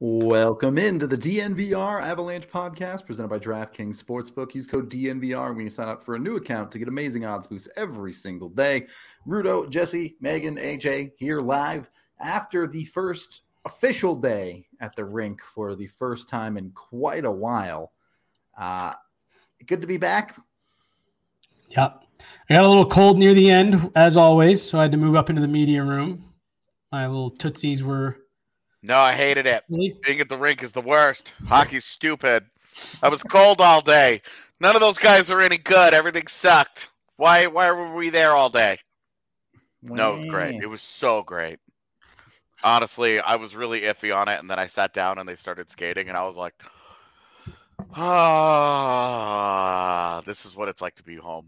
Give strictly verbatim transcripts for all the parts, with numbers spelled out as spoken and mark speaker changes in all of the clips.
Speaker 1: Welcome into the D N V R Avalanche podcast presented by DraftKings Sportsbook. Use code D N V R when you sign up for a new account to get amazing odds boosts every single day. Rudo, Jesse, Megan, A J here live after the first official day at the rink for the first time in quite a while. Uh, good to be back.
Speaker 2: Yep. I got a little cold near the end, as always, so I had to move up into the media room. My little tootsies were...
Speaker 3: No, I hated it. Really? Being at the rink is the worst. Hockey's stupid. I was cold all day. None of those guys are any good. Everything sucked. Why Why were we there all day? Wow. No, it was great. It was so great. Honestly, I was really iffy on it, and then I sat down and they started skating, and I was like, ah, this is what it's like to be home.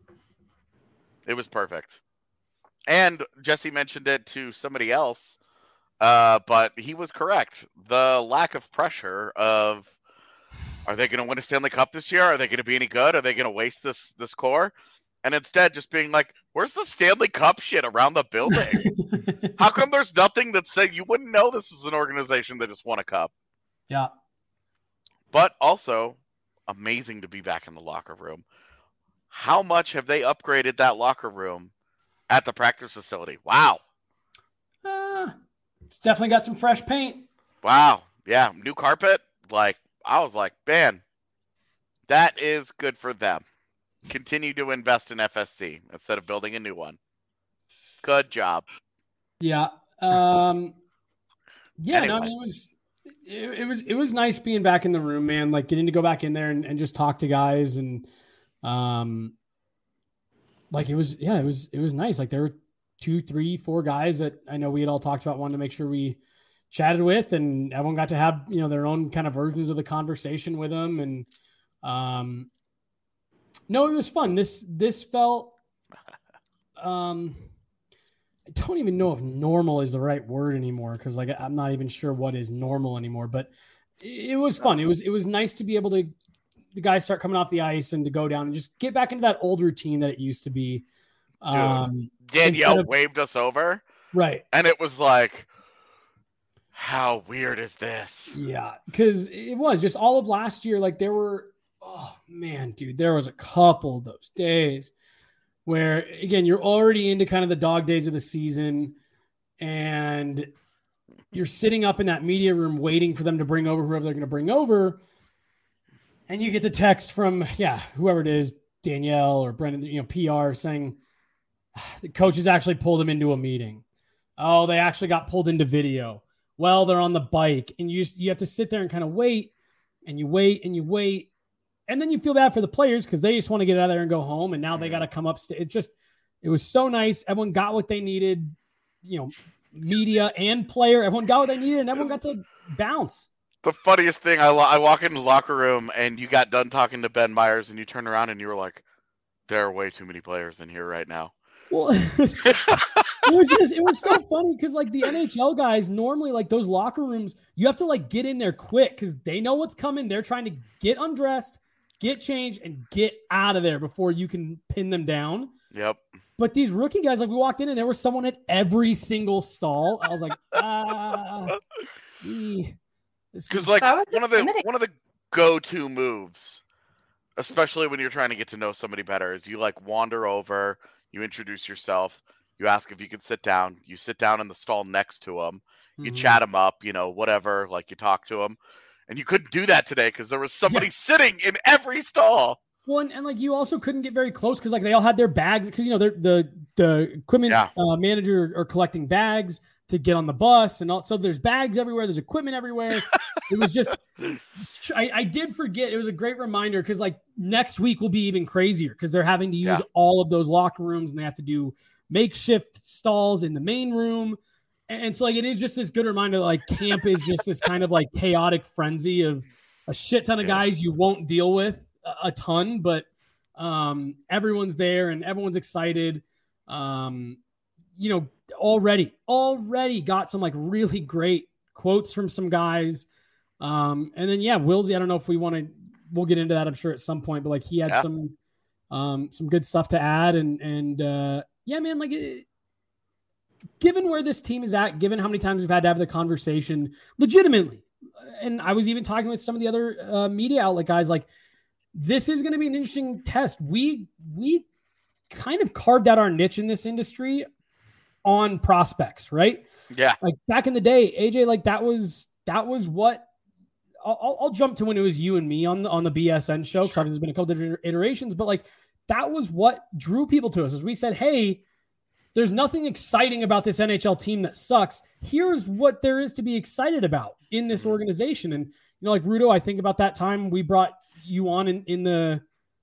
Speaker 3: It was perfect. And Jesse mentioned it to somebody else. Uh, but he was correct. The lack of pressure of, are they going to win a Stanley Cup this year? Are they going to be any good? Are they going to waste this this core? And instead just being like, where's the Stanley Cup shit around the building? How come there's nothing that said you wouldn't know this is an organization that just won a cup?
Speaker 2: Yeah.
Speaker 3: But also, amazing to be back in the locker room. How much have they upgraded that locker room at the practice facility? Wow.
Speaker 2: Uh... It's definitely got some fresh paint.
Speaker 3: Wow. Yeah. New carpet. Like, I was like, man, that is good for them. Continue to invest in F S C instead of building a new one. Good job.
Speaker 2: Yeah. Um, yeah.
Speaker 3: Anyway.
Speaker 2: No, I mean, it was, it, it was, it was nice being back in the room, man. Like getting to go back in there and, and just talk to guys. And, um, like it was, yeah, it was, it was nice. Like there were two, three, four guys that I know we had all talked about, wanted to make sure we chatted with, and everyone got to have, you know, their own kind of versions of the conversation with them. And, um, no, it was fun. This, this felt, um, I don't even know if normal is the right word anymore. Cause like, I'm not even sure what is normal anymore, but it was fun. It was, it was nice to be able to, the guys start coming off the ice and to go down and just get back into that old routine that it used to be.
Speaker 3: Dude,
Speaker 2: um,
Speaker 3: Danielle
Speaker 2: of,
Speaker 3: waved us over.
Speaker 2: Right.
Speaker 3: And it was like, how weird is this?
Speaker 2: Yeah. Cause it was just all of last year. Like there were, oh man, dude, there was a couple of those days where again, you're already into kind of the dog days of the season and you're sitting up in that media room waiting for them to bring over whoever they're going to bring over. And you get the text from, yeah, whoever it is, Danielle or Brendan, you know, P R saying, the coaches actually pulled him into a meeting. Oh, they actually got pulled into video. Well, they're on the bike, and you just, you have to sit there and kind of wait, and you wait and you wait, and then you feel bad for the players because they just want to get out of there and go home, and now they got to come up. St- it just, it was so nice. Everyone got what they needed. You know, media and player, everyone got what they needed, and everyone got to bounce.
Speaker 3: The funniest thing, I, I walk into the locker room, and you got done talking to Ben Myers, and you turn around, and you were like, there are way too many players in here right now.
Speaker 2: Well, it was just, it was so funny because like the N H L guys normally like those locker rooms, you have to like get in there quick because they know what's coming. They're trying to get undressed, get changed, and get out of there before you can pin them down.
Speaker 3: Yep.
Speaker 2: But these rookie guys, like we walked in and there was someone at every single stall. I was like, ah,
Speaker 3: because like one of the one of the go-to moves, especially when you're trying to get to know somebody better, is you like wander over. You introduce yourself. You ask if you can sit down. You sit down in the stall next to them. You mm-hmm. chat them up, you know, whatever, like you talk to them. And you couldn't do that today because there was somebody yeah. sitting in every stall.
Speaker 2: Well, and, and like you also couldn't get very close because like they all had their bags because, you know, the the equipment
Speaker 3: yeah.
Speaker 2: uh, manager are collecting bags to get on the bus. And all, so there's bags everywhere. There's equipment everywhere. It was just, I, I did forget. It was a great reminder because like next week will be even crazier because they're having to use
Speaker 3: yeah.
Speaker 2: all of those locker rooms and they have to do makeshift stalls in the main room. And so like, it is just this good reminder, that, like camp is just this kind of like chaotic frenzy of a shit ton of
Speaker 3: yeah.
Speaker 2: guys you won't deal with a, a ton, but um, everyone's there and everyone's excited. Um, you know, already, already got some like really great quotes from some guys. Um, and then, yeah, Wilsey, I don't know if we want to, we'll get into that, I'm sure at some point, but like he had
Speaker 3: yeah.
Speaker 2: some, um, some good stuff to add. And, and, uh, yeah, man, like it, given where this team is at, given how many times we've had to have the conversation legitimately, and I was even talking with some of the other uh, media outlet guys, like, this is going to be an interesting test. We, we kind of carved out our niche in this industry on prospects, right?
Speaker 3: Yeah.
Speaker 2: Like back in the day, A J, like that was, that was what I'll, I'll jump to when it was you and me on the, on the B S N show. Cause obviously there's been a couple different iterations, but like, that was what drew people to us as we said, hey, there's nothing exciting about this N H L team that sucks. Here's what there is to be excited about in this organization. And, you know, like Rudo, I think about that time we brought you on in, in the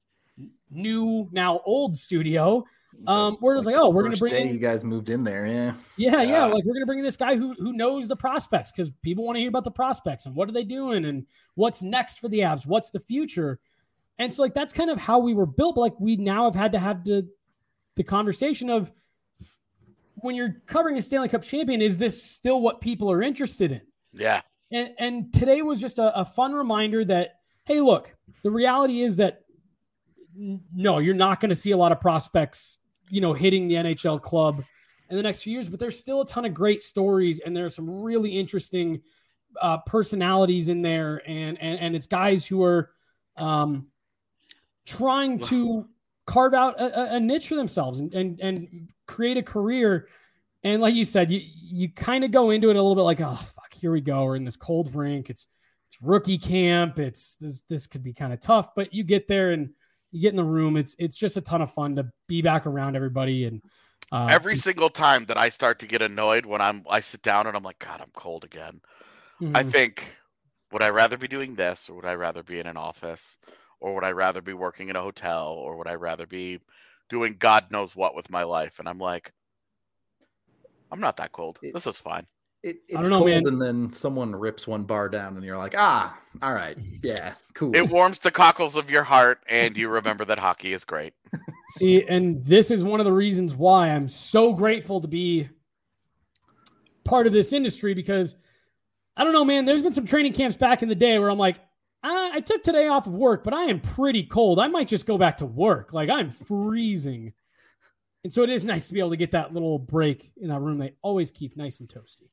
Speaker 2: new, now old studio, um, where it was like, like oh, we're going to bring
Speaker 1: day
Speaker 2: in,
Speaker 1: you guys moved in there. Yeah.
Speaker 2: Yeah. Yeah. Like we're going to bring in this guy who, who knows the prospects, because people want to hear about the prospects and what are they doing and what's next for the Avs? What's the future? And so like, that's kind of how we were built. But like, we now have had to have the, the conversation of, when you're covering a Stanley Cup champion, is this still what people are interested in?
Speaker 3: Yeah.
Speaker 2: And and today was just a, a fun reminder that, hey, look, the reality is that n- no, you're not going to see a lot of prospects, you know, hitting the N H L club in the next few years, but there's still a ton of great stories and there's some really interesting uh, personalities in there. And, and, and it's guys who are um, trying to carve out a, a niche for themselves and, and, and create a career. And like you said, you, you kind of go into it a little bit like, oh, fuck, here we go. We're in this cold rink. It's, it's rookie camp. It's this, this could be kind of tough, but you get there and you get in the room. It's, it's just a ton of fun to be back around everybody. And uh,
Speaker 3: every single time that I start to get annoyed when I'm, I sit down and I'm like, God, I'm cold again. Mm-hmm. I think, would I rather be doing this or would I rather be in an office? Or would I rather be working in a hotel? Or would I rather be doing God knows what with my life? And I'm like, I'm not that cold. It, this is fine.
Speaker 1: It, it's know, cold, man. And then someone rips one bar down, and you're like, ah, all right, yeah, cool.
Speaker 3: It warms the cockles of your heart, and you remember that hockey is great.
Speaker 2: See, and this is one of the reasons why I'm so grateful to be part of this industry, because I don't know, man, there's been some training camps back in the day where I'm like, I took today off of work, but I am pretty cold. I might just go back to work. Like I'm freezing. And so it is nice to be able to get that little break in our room. They always keep nice and toasty.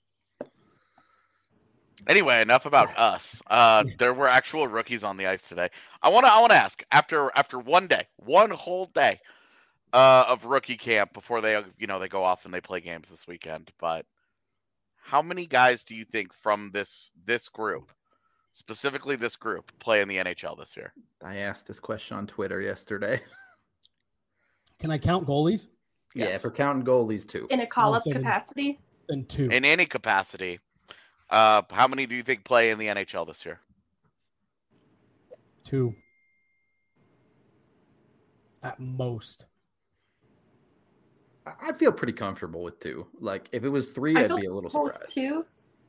Speaker 3: Anyway, enough about us. Uh, there were actual rookies on the ice today. I want to I want to ask, after after one day, one whole day uh, of rookie camp before they you know they go off and they play games this weekend, but how many guys do you think from this this group, specifically this group, play in the N H L this year?
Speaker 1: I asked this question on Twitter yesterday.
Speaker 2: Can I count goalies?
Speaker 1: Yes. Yeah, if we're counting goalies too.
Speaker 4: In a call-up capacity?
Speaker 2: Then two.
Speaker 3: In any capacity. Uh, how many do you think play in the N H L this year?
Speaker 2: Two. At most.
Speaker 1: I feel pretty comfortable with two. Like, if it was three,
Speaker 4: I
Speaker 1: I'd be a little surprised.
Speaker 4: Two.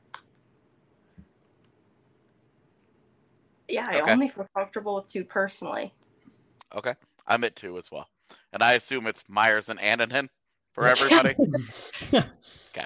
Speaker 4: Yeah, I
Speaker 3: okay.
Speaker 4: only feel comfortable with two personally.
Speaker 3: Okay. I'm at two as well. And I assume it's Myers and Annunen for everybody. Okay.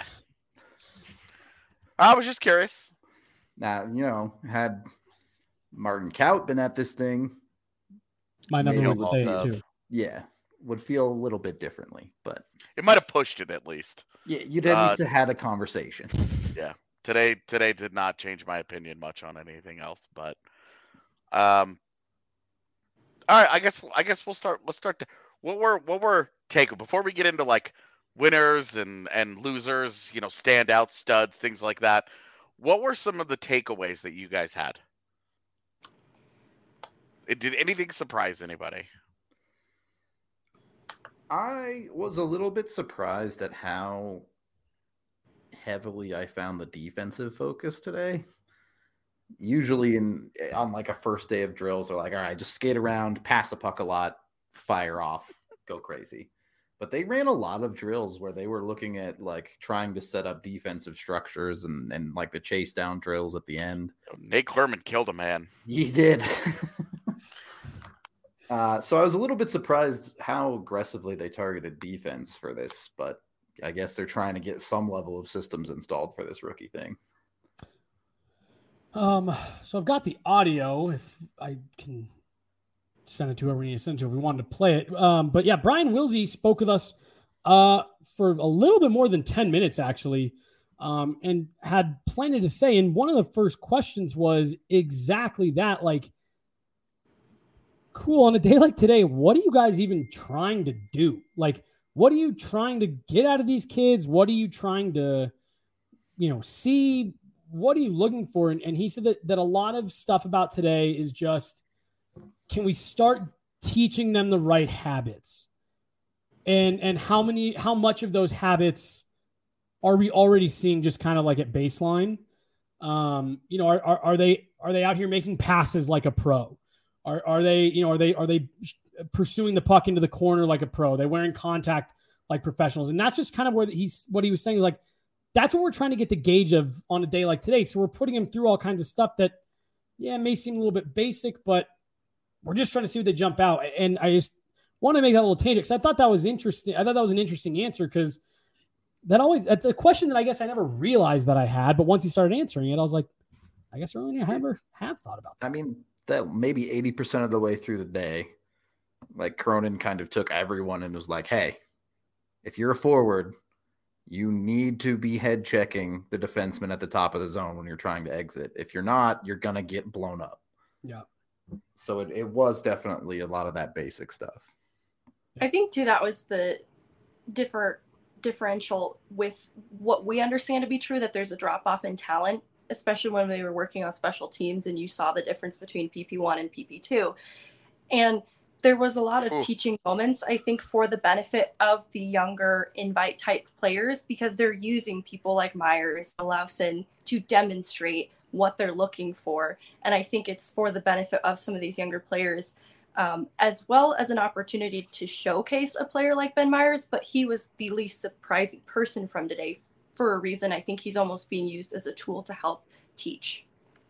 Speaker 3: I was just curious.
Speaker 1: Now, you know, had Martin Kaut been at this thing,
Speaker 2: my number would stay too.
Speaker 1: Yeah, would feel a little bit differently, but
Speaker 3: it might have pushed it at least.
Speaker 1: Yeah, you'd at uh, least have had a conversation.
Speaker 3: Yeah. Today today did not change my opinion much on anything else, but um all right, I guess I guess we'll start let's start there. What were what were take before we get into like winners and, and losers, you know, standout studs, things like that. What were some of the takeaways that you guys had? It, did anything surprise anybody?
Speaker 1: I was a little bit surprised at how heavily I found the defensive focus today. Usually in on like a first day of drills, they're like, all right, just skate around, pass the puck a lot, fire off, go crazy. But they ran a lot of drills where they were looking at like trying to set up defensive structures and, and like the chase down drills at the end.
Speaker 3: Nate Clermont killed a man.
Speaker 1: He did. uh, so I was a little bit surprised how aggressively they targeted defense for this, but I guess they're trying to get some level of systems installed for this rookie thing.
Speaker 2: Um, so I've got the audio if I can send it to whoever we need to send it to if we wanted to play it. Um, but yeah, Brian Wilsey spoke with us uh, for a little bit more than ten minutes, actually, um, and had plenty to say. And one of the first questions was exactly that, like, cool, on a day like today, what are you guys even trying to do? Like, what are you trying to get out of these kids? What are you trying to, you know, see? What are you looking for? And, and he said that, that a lot of stuff about today is just, can we start teaching them the right habits? And, and how many, how much of those habits are we already seeing just kind of like at baseline? Um, you know, are, are, are they, are they out here making passes like a pro? Are, are they, you know, are they, are they pursuing the puck into the corner like a pro? Are they wearing contact like professionals? And that's just kind of where he's, what he was saying is like, that's what we're trying to get the gauge of on a day like today. So we're putting him through all kinds of stuff that, yeah, may seem a little bit basic, but we're just trying to see what they jump out. And I just want to make that a little tangent because I thought that was interesting. I thought that was an interesting answer because that always, that's a question that I guess I never realized that I had, but once he started answering it, I was like, I guess I really never have thought about that.
Speaker 1: I mean, that maybe eighty percent of the way through the day, like Cronin kind of took everyone and was like, hey, if you're a forward, you need to be head checking the defenseman at the top of the zone when you're trying to exit. If you're not, you're going to get blown up.
Speaker 2: Yeah.
Speaker 1: So it, it was definitely a lot of that basic stuff.
Speaker 4: I think too, that was the different differential with what we understand to be true, that there's a drop off in talent, especially when they were working on special teams and you saw the difference between P P one and P P two. And there was a lot of Ooh. teaching moments, I think, for the benefit of the younger invite type players, because they're using people like Myers, Lawson to demonstrate what they're looking for. And I think it's for the benefit of some of these younger players, um, as well as an opportunity to showcase a player like Ben Myers. But he was the least surprising person from today for a reason. I think he's almost being used as a tool to help teach.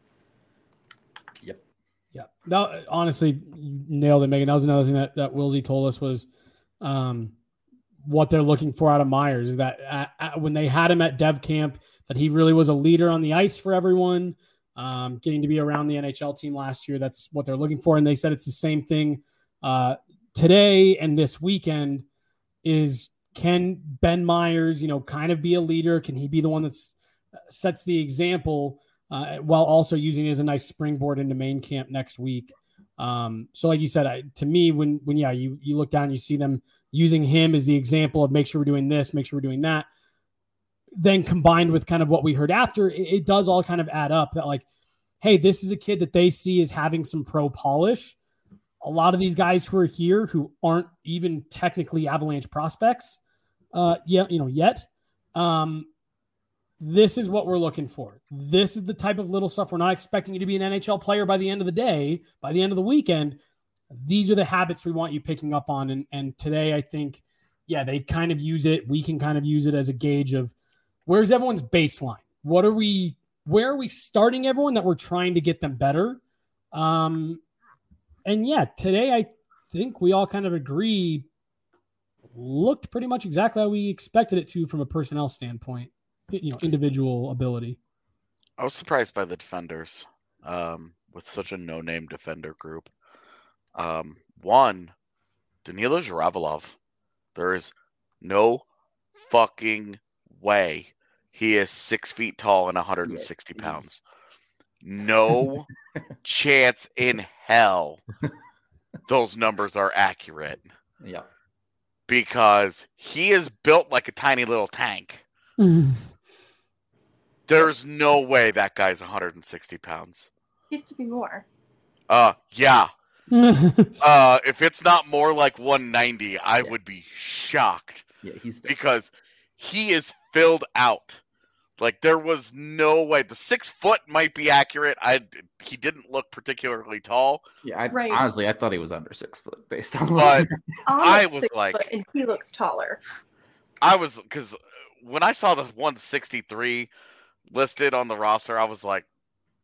Speaker 1: Yep.
Speaker 2: Yeah. That, honestly, you nailed it, Megan. That was another thing that, that Wilsey told us was um, what they're looking for out of Myers is that at, at, when they had him at Dev Camp, that he really was a leader on the ice for everyone, um, getting to be around the N H L team last year. That's what they're looking for. And they said it's the same thing uh, today and this weekend is, can Ben Myers, you know, kind of be a leader? Can he be the one that's sets the example uh, while also using it as a nice springboard into main camp next week? Um, so like you said, I, to me, when, when, yeah, you, you look down, you see them using him as the example of make sure we're doing this, make sure we're doing that. Then combined with kind of what we heard after, it, it does all kind of add up that like, hey, this is a kid that they see as having some pro polish. A lot of these guys who are here who aren't even technically Avalanche prospects, uh, yeah, you know, yet, um, this is what we're looking for. This is the type of little stuff. We're not expecting you to be an N H L player by the end of the day, by the end of the weekend. These are the habits we want you picking up on. And, and today, I think, yeah, they kind of use it. We can kind of use it as a gauge of where's everyone's baseline? What are we, where are we starting everyone that we're trying to get them better? Um, and yeah, today, I think we all kind of agree looked pretty much exactly how we expected it to from a personnel standpoint, you know, individual ability.
Speaker 3: I was surprised by the defenders um, with such a no-name defender group. Um, one, Danilo Zhiravalov. There is no fucking way he is six feet tall and one hundred sixty yeah, pounds. No chance in hell those numbers are accurate.
Speaker 1: Yeah.
Speaker 3: Because he is built like a tiny little tank. There's no way that guy's one hundred sixty pounds.
Speaker 4: He used to be more.
Speaker 3: Uh, yeah. uh, if it's not more like one ninety, I yeah. would be shocked.
Speaker 1: Yeah, he's the-
Speaker 3: because he is filled out. Like there was no way. The six foot might be accurate. I he didn't look particularly tall.
Speaker 1: Yeah, I,
Speaker 4: right.
Speaker 1: honestly, I thought he was under six foot based on.
Speaker 3: But I was like,
Speaker 4: foot and he looks taller.
Speaker 3: I was because when I saw the one sixty-three listed on the roster, I was like,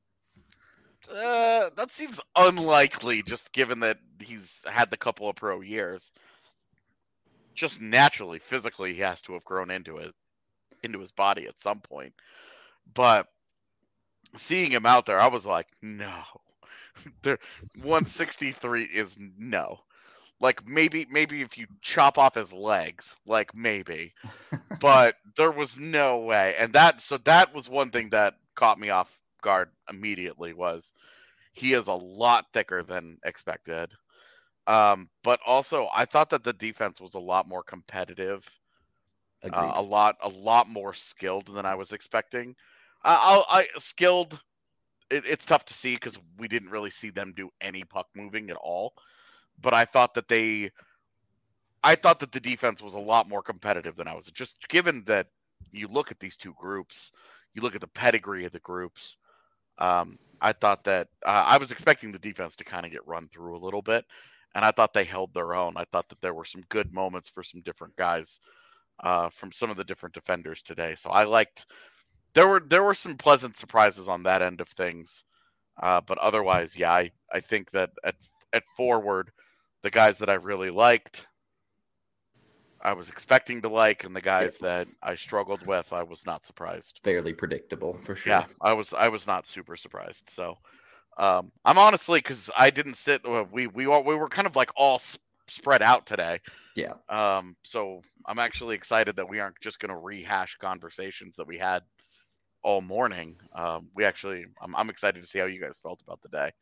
Speaker 3: uh, that seems unlikely. Just given that he's had the couple of pro years, just naturally, physically, he has to have grown into it. into his body at some point. But seeing him out there, I was like, no. There one sixty-three is no. Like maybe maybe if you chop off his legs, like maybe. But there was no way. And that so that was one thing that caught me off guard immediately was he is a lot thicker than expected. Um, but also I thought that the defense was a lot more competitive. Uh, a lot a lot more skilled than I was expecting. Uh, I'll, I skilled it, it's tough to see because we didn't really see them do any puck moving at all. But I thought that they, I thought that the defense was a lot more competitive than I was. Just given that you look at these two groups, you look at the pedigree of the groups. Um, I thought that uh, I was expecting the defense to kind of get run through a little bit, and I thought they held their own. I thought that there were some good moments for some different guys uh, from some of the different defenders today. So I liked. There were there were some pleasant surprises on that end of things, uh, but otherwise, yeah, I, I think that at at forward, the guys that I really liked, I was expecting to like, and the guys yeah. that I struggled with, I was not surprised.
Speaker 1: Fairly predictable for sure.
Speaker 3: Yeah, I was I was not super surprised. So um, I'm honestly because I didn't sit. We we all, we were kind of like all sp- spread out today.
Speaker 1: Yeah.
Speaker 3: Um. So I'm actually excited that we aren't just going to rehash conversations that we had all morning. Um, we actually, I'm, I'm excited to see how you guys felt about the day.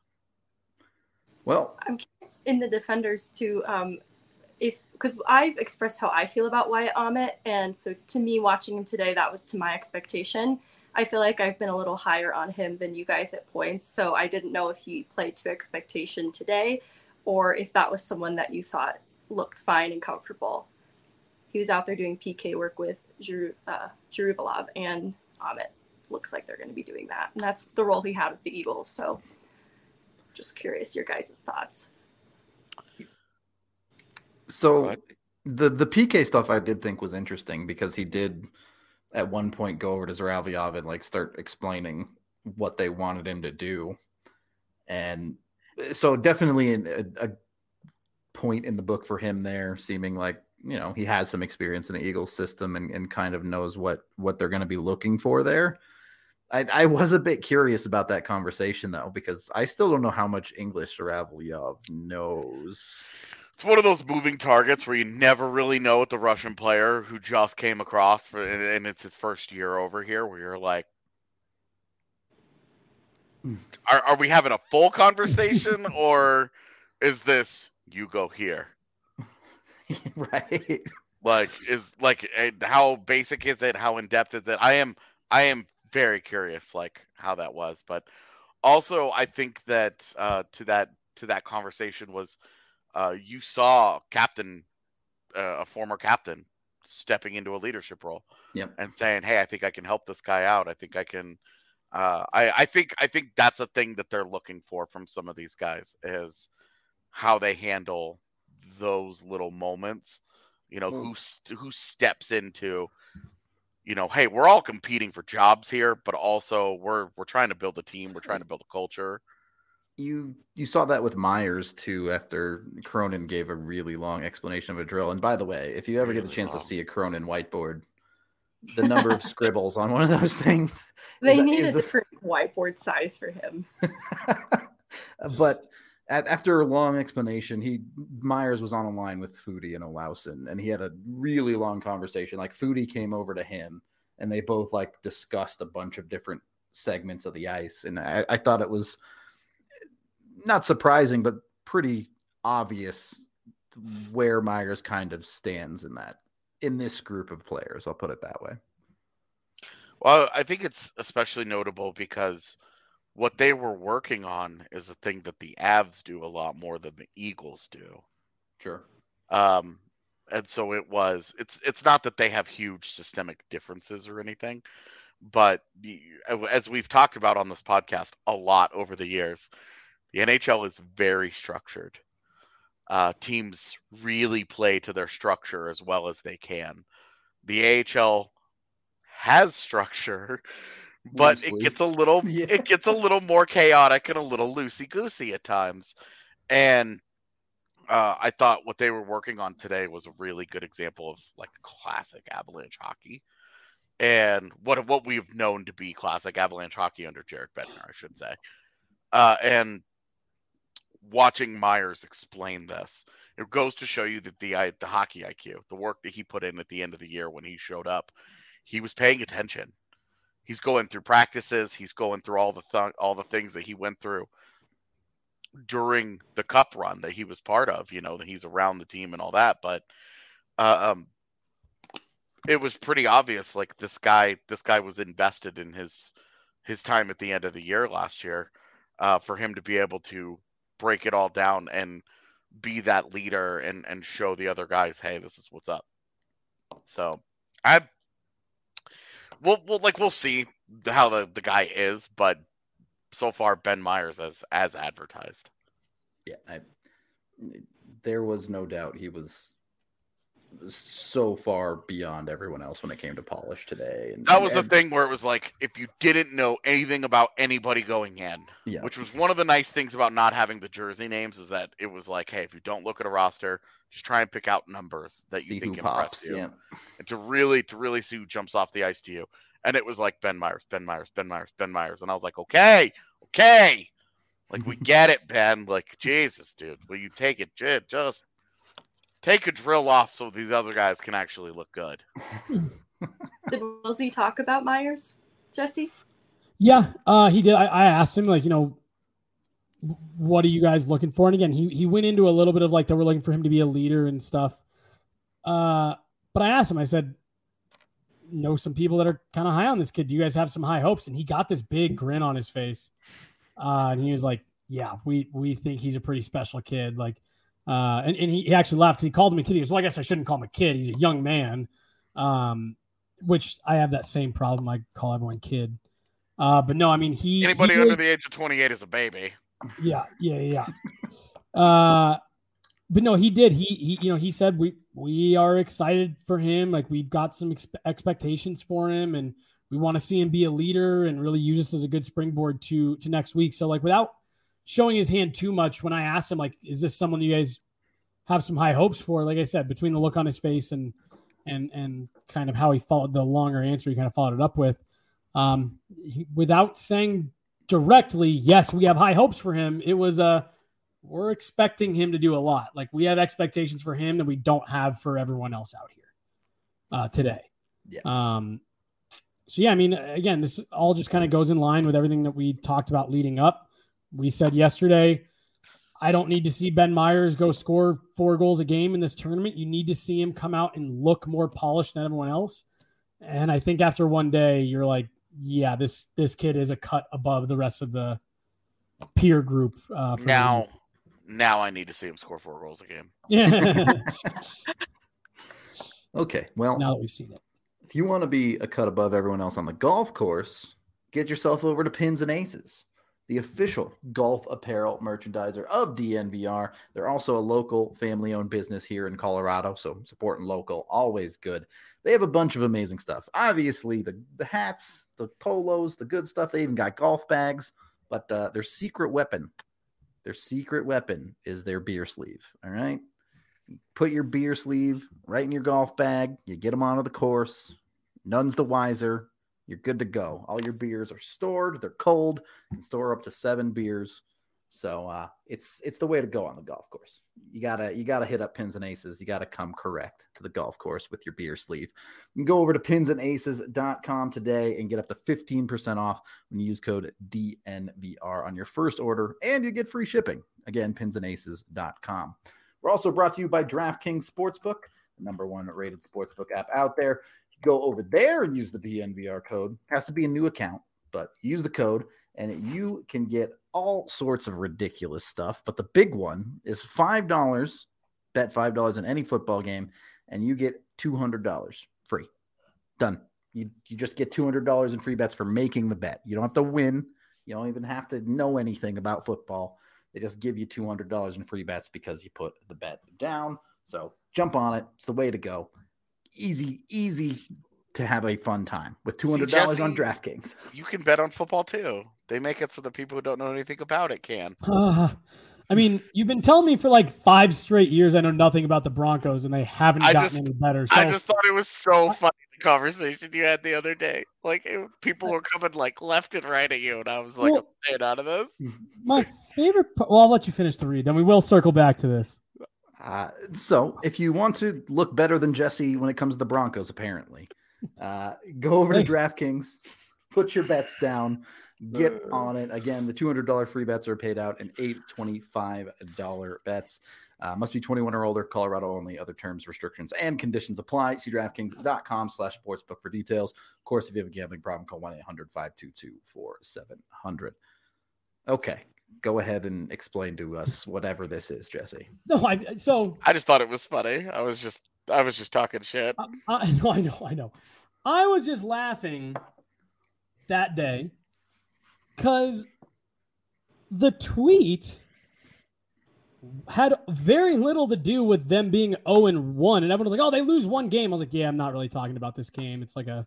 Speaker 1: Well,
Speaker 4: I'm curious in the defenders too, um, if because I've expressed how I feel about Wyatt Ahmet, and so to me, watching him today, that was to my expectation. I feel like I've been a little higher on him than you guys at points, so I didn't know if he played to expectation today, or if that was someone that you thought looked fine and comfortable. He was out there doing P K work with Zhuru, uh, Zhuruvalov, and Ahmet looks like they're going to be doing that. And that's the role he had with the Eagles. So just curious your guys' thoughts.
Speaker 1: So the, the P K stuff I did think was interesting because he did at one point go over to Zhuravlyov and like start explaining what they wanted him to do. And so definitely a, a point in the book for him there, seeming like, you know, he has some experience in the Eagles system and, and kind of knows what, what they're going to be looking for there. I, I was a bit curious about that conversation, though, because I still don't know how much English Zhuravlyov knows.
Speaker 3: It's one of those moving targets where you never really know what the Russian player who just came across, for, and it's his first year over here, where you're like, are, are we having a full conversation, or is this, you go here?
Speaker 1: Right.
Speaker 3: Like is like how basic is it? How in depth is it? I am I am very curious, like how that was. But also, I think that uh, to that to that conversation was uh, you saw captain, uh, a former captain, stepping into a leadership role,
Speaker 1: yep.
Speaker 3: and saying, "Hey, I think I can help this guy out. I think I can." Uh, I I think I think that's a thing that they're looking for from some of these guys is how they handle those little moments, you know, mm. who who steps into, you know, hey, we're all competing for jobs here, but also we're we're trying to build a team, we're trying to build a culture.
Speaker 1: You you saw that with Myers too after Cronin gave a really long explanation of a drill. And by the way, if you ever really get the chance long. to see a Cronin whiteboard, the number of scribbles on one of those things,
Speaker 4: they is, need is a different a... whiteboard size for him.
Speaker 1: But after a long explanation, he Myers was on a line with Foodie and Olausen, and he had a really long conversation. Like Foodie came over to him, and they both like discussed a bunch of different segments of the ice. And I, I thought it was not surprising, but pretty obvious where Myers kind of stands in that in this group of players. I'll put it that way.
Speaker 3: Well, I think it's especially notable because what they were working on is a thing that the Avs do a lot more than the Eagles do.
Speaker 1: Sure.
Speaker 3: Um, and so it was, it's, it's not that they have huge systemic differences or anything, but as we've talked about on this podcast a lot over the years, the N H L is very structured. Uh, teams really play to their structure as well as they can. The A H L has structure, but Loosely. it gets a little yeah. it gets a little more chaotic and a little loosey-goosey at times. And uh, I thought what they were working on today was a really good example of like classic Avalanche hockey, and what what we've known to be classic Avalanche hockey under Jared Bednar, I should say. Uh, and watching Myers explain this, It goes to show you that the the hockey I Q, the work that he put in at the end of the year when he showed up, he was paying attention. He's going through practices. He's going through all the th- all the things that he went through during the cup run that he was part of. You know, that he's around the team and all that. But uh, um, it was pretty obvious. Like this guy, this guy was invested in his his time at the end of the year last year. Uh, for him to be able to break it all down and be that leader and, and show the other guys, hey, this is what's up. So I, we'll, we'll like, we'll see how the, the guy is, but so far Ben Meyers as, as advertised.
Speaker 1: Yeah. I, there was no doubt he was so far beyond everyone else when it came to polish today. And
Speaker 3: that was
Speaker 1: and,
Speaker 3: the thing where it was like, if you didn't know anything about anybody going in,
Speaker 1: yeah.
Speaker 3: which was one of the nice things about not having the jersey names, is that it was like, hey, if you don't look at a roster, just try and pick out numbers that you
Speaker 1: see
Speaker 3: think
Speaker 1: who
Speaker 3: impress
Speaker 1: pops,
Speaker 3: you,
Speaker 1: yeah.
Speaker 3: and to really, to really see who jumps off the ice to you. And it was like Ben Meyers, Ben Meyers, Ben Meyers, Ben Meyers, and I was like, okay, okay, like we get it, Ben. Like Jesus, dude, will you take it? Just take a drill off so these other guys can actually look good.
Speaker 4: Did Wilsey talk about Meyers, Jesse?
Speaker 2: Yeah, uh, he did. I, I asked him, like, you know, what are you guys looking for? And again, he he went into a little bit of like they were looking for him to be a leader and stuff. Uh, but I asked him, I said, know some people that are kind of high on this kid. Do you guys have some high hopes? And he got this big grin on his face. Uh, and he was like, yeah, we we think he's a pretty special kid. Like, Uh, and, and he, he actually laughed. He called him a kid. He goes, well, I guess I shouldn't call him a kid. He's a young man, um, which I have that same problem. I call everyone kid. Uh, but no, I mean, he
Speaker 3: anybody
Speaker 2: he
Speaker 3: under
Speaker 2: really,
Speaker 3: the age of twenty-eight is a baby.
Speaker 2: Yeah, yeah, yeah. uh, but no, he did. He, he, you know, he said we we are excited for him. Like we've got some ex- expectations for him, and we want to see him be a leader and really use this as a good springboard to to next week. So, like, without showing his hand too much, when I asked him, like, is this someone you guys have some high hopes for? Like I said, between the look on his face and and and kind of how he followed the longer answer, he kind of followed it up with, um, he, without saying directly, yes, we have high hopes for him. It was a uh, we're expecting him to do a lot. Like we have expectations for him that we don't have for everyone else out here uh, today.
Speaker 1: Yeah.
Speaker 2: Um. So yeah, I mean, again, this all just kind of goes in line with everything that we talked about leading up. We said yesterday, I don't need to see Ben Meyers go score four goals a game in this tournament. You need to see him come out and look more polished than everyone else. And I think after one day, you're like, yeah, this this kid is a cut above the rest of the peer group. Uh, for
Speaker 3: now, now I need to see him score four goals a game.
Speaker 2: Yeah.
Speaker 1: Okay, well,
Speaker 2: now that we've seen it.
Speaker 1: If you want to be a cut above everyone else on the golf course, get yourself over to Pins and Aces, the official golf apparel merchandiser of D N V R. They're also a local family-owned business here in Colorado, so supporting local, always good. They have a bunch of amazing stuff. Obviously, the, the hats, the polos, the good stuff. They even got golf bags, but uh, their secret weapon, their secret weapon is their beer sleeve, all right? You put your beer sleeve right in your golf bag. You get them onto the course. None's the wiser. You're good to go. All your beers are stored. They're cold. You can store up to seven beers. So uh, it's it's the way to go on the golf course. You gotta you gotta hit up Pins and Aces. You gotta come correct to the golf course with your beer sleeve. You can go over to pins and aces dot com today and get up to fifteen percent off when you use code D N V R on your first order, and you get free shipping. Again, pins and aces dot com. We're also brought to you by DraftKings Sportsbook, the number one rated sportsbook app out there. Go over there and use the D N V R code. It has to be a new account, but use the code and you can get all sorts of ridiculous stuff. But the big one is five dollars. Bet five dollars in any football game, and you get two hundred dollars free. Done. You, you just get two hundred dollars in free bets for making the bet. You don't have to win. You don't even have to know anything about football. They just give you two hundred dollars in free bets because you put the bet down. So jump on it. It's the way to go. Easy, easy to have a fun time with two hundred dollars
Speaker 3: See, Jesse,
Speaker 1: on DraftKings.
Speaker 3: You can bet on football too. They make it so the people who don't know anything about it can.
Speaker 2: Uh, I mean, you've been telling me for like five straight years I know nothing about the Broncos, and they haven't
Speaker 3: I
Speaker 2: gotten
Speaker 3: just,
Speaker 2: any better. So,
Speaker 3: I just thought it was so funny, the conversation you had the other day. Like, it, people were coming like left and right at you, and I was like,
Speaker 2: well,
Speaker 3: I'm staying out of this.
Speaker 2: My favorite – well, I'll let you finish the read, then we will circle back to this.
Speaker 1: Uh, so if you want to look better than Jesse when it comes to the Broncos, apparently, uh, go over to DraftKings, put your bets down, get on it. Again, the two hundred dollars free bets are paid out in eight twenty-five dollars bets. Uh, must be twenty-one or older, Colorado only. Other terms, restrictions, and conditions apply. See DraftKings.com slash sportsbook for details. Of course, if you have a gambling problem, call one eight hundred five two two four seven zero zero. Okay, go ahead and explain to us whatever this is, Jesse.
Speaker 2: No, I so
Speaker 3: I just thought it was funny. I was just I was just talking shit.
Speaker 2: I, I know, I know, I know. I was just laughing that day because the tweet had very little to do with them being oh and one, and everyone was like, "Oh, they lose one game." I was like, "Yeah, I'm not really talking about this game. It's like a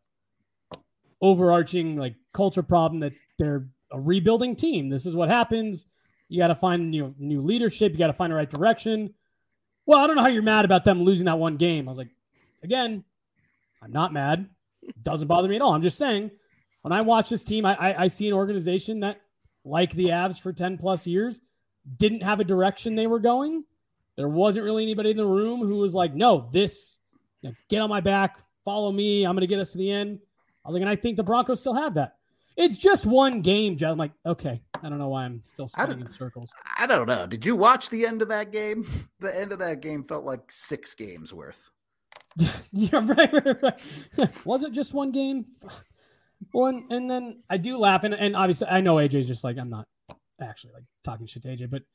Speaker 2: overarching like culture problem that they're a rebuilding team. This is what happens. You got to find new new leadership. You got to find the right direction." Well, I don't know how you're mad about them losing that one game. I was like, again, I'm not mad. It doesn't bother me at all. I'm just saying, when I watch this team, I, I, I see an organization that, like the Avs for ten plus years, didn't have a direction they were going. There wasn't really anybody in the room who was like, no, this, you know, get on my back, follow me, I'm going to get us to the end. I was like, and I think the Broncos still have that. It's just one game, Joe. I'm like, okay, I don't know why I'm still spinning in circles.
Speaker 1: I don't know. Did you watch the end of that game? The end of that game felt like six games worth.
Speaker 2: Yeah, right, right, right. Was it just one game? One, and then I do laugh, and, and obviously I know A J's just like, I'm not actually like talking shit to A J, but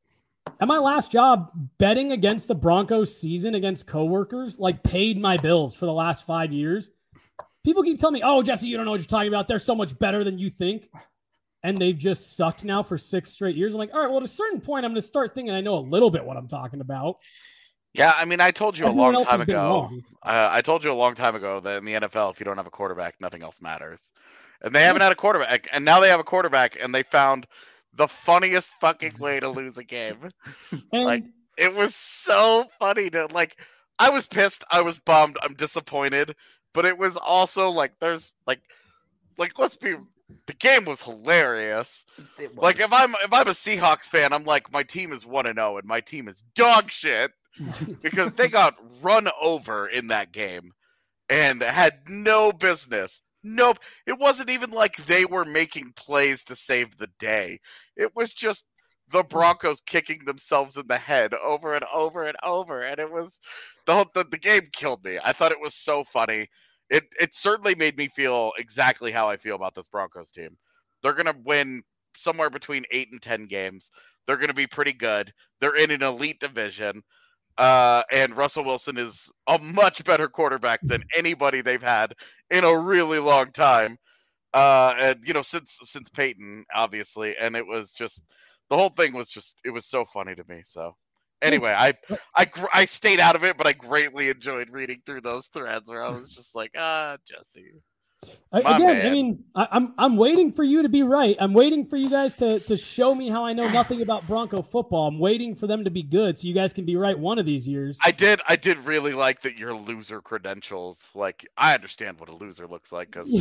Speaker 2: at my last job, betting against the Broncos season against coworkers like paid my bills for the last five years. People keep telling me, "Oh, Jesse, you don't know what you're talking about. They're so much better than you think," and they've just sucked now for six straight years. I'm like, all right, well, at a certain point, I'm going to start thinking I know a little bit what I'm talking about.
Speaker 3: Yeah, I mean, I told you
Speaker 2: Everyone
Speaker 3: a long
Speaker 2: else
Speaker 3: time
Speaker 2: has been
Speaker 3: ago.
Speaker 2: wrong.
Speaker 3: Uh, I told you a long time ago that in the N F L, if you don't have a quarterback, nothing else matters. And they haven't had a quarterback, and now they have a quarterback, and they found the funniest fucking way to lose a game.
Speaker 2: And
Speaker 3: Like, it was so funny to like. I was pissed. I was bummed. I'm disappointed. But it was also like, there's like, like let's be. The game was hilarious.
Speaker 1: It was.
Speaker 3: Like if I'm if I'm a Seahawks fan, I'm like, my team is one and zero, and my team is dog shit because they got run over in that game and had no business. Nope. It wasn't even like they were making plays to save the day. It was just the Broncos kicking themselves in the head over and over and over, and it was the whole the, the game killed me. I thought it was so funny. It it certainly made me feel exactly how I feel about this Broncos team. They're gonna win somewhere between eight and ten games. They're gonna be pretty good. They're in an elite division, uh, and Russell Wilson is a much better quarterback than anybody they've had in a really long time. Uh, and you know, since since Peyton, obviously, and it was just the whole thing was just it was so funny to me. So. Anyway, I, I I stayed out of it, but I greatly enjoyed reading through those threads where I was just like, ah, Jesse.
Speaker 2: I, again,
Speaker 3: man.
Speaker 2: I mean, I, I'm I'm waiting for you to be right. I'm waiting for you guys to to show me how I know nothing about Bronco football. I'm waiting for them to be good, so you guys can be right one of these years.
Speaker 3: I did I did really like that your loser credentials. Like, I understand what a loser looks like because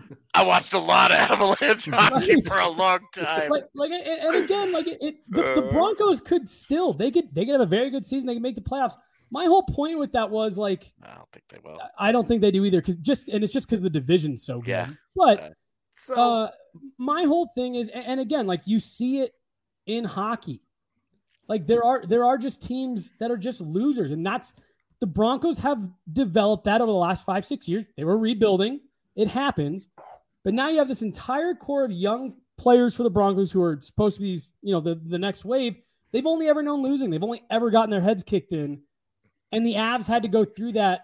Speaker 3: I watched a lot of Avalanche hockey
Speaker 2: Right.
Speaker 3: for a long time.
Speaker 2: Like, like, and, and again, like it, it the, the
Speaker 3: Uh.
Speaker 2: Broncos could still they could they could have a very good season. They could make the playoffs. My whole point with that was like,
Speaker 3: I don't think they will.
Speaker 2: I don't think they do either, because just and it's just because the division's so good.
Speaker 3: Yeah.
Speaker 2: But
Speaker 1: So
Speaker 2: uh, my whole thing is, and again, like you see it in hockey, like there are there are just teams that are just losers, and that's the Broncos have developed that over the last five six years. They were rebuilding. It happens, but now you have this entire core of young players for the Broncos who are supposed to be these, you know, the the next wave. They've only ever known losing. They've only ever gotten their heads kicked in. And the Avs had to go through that.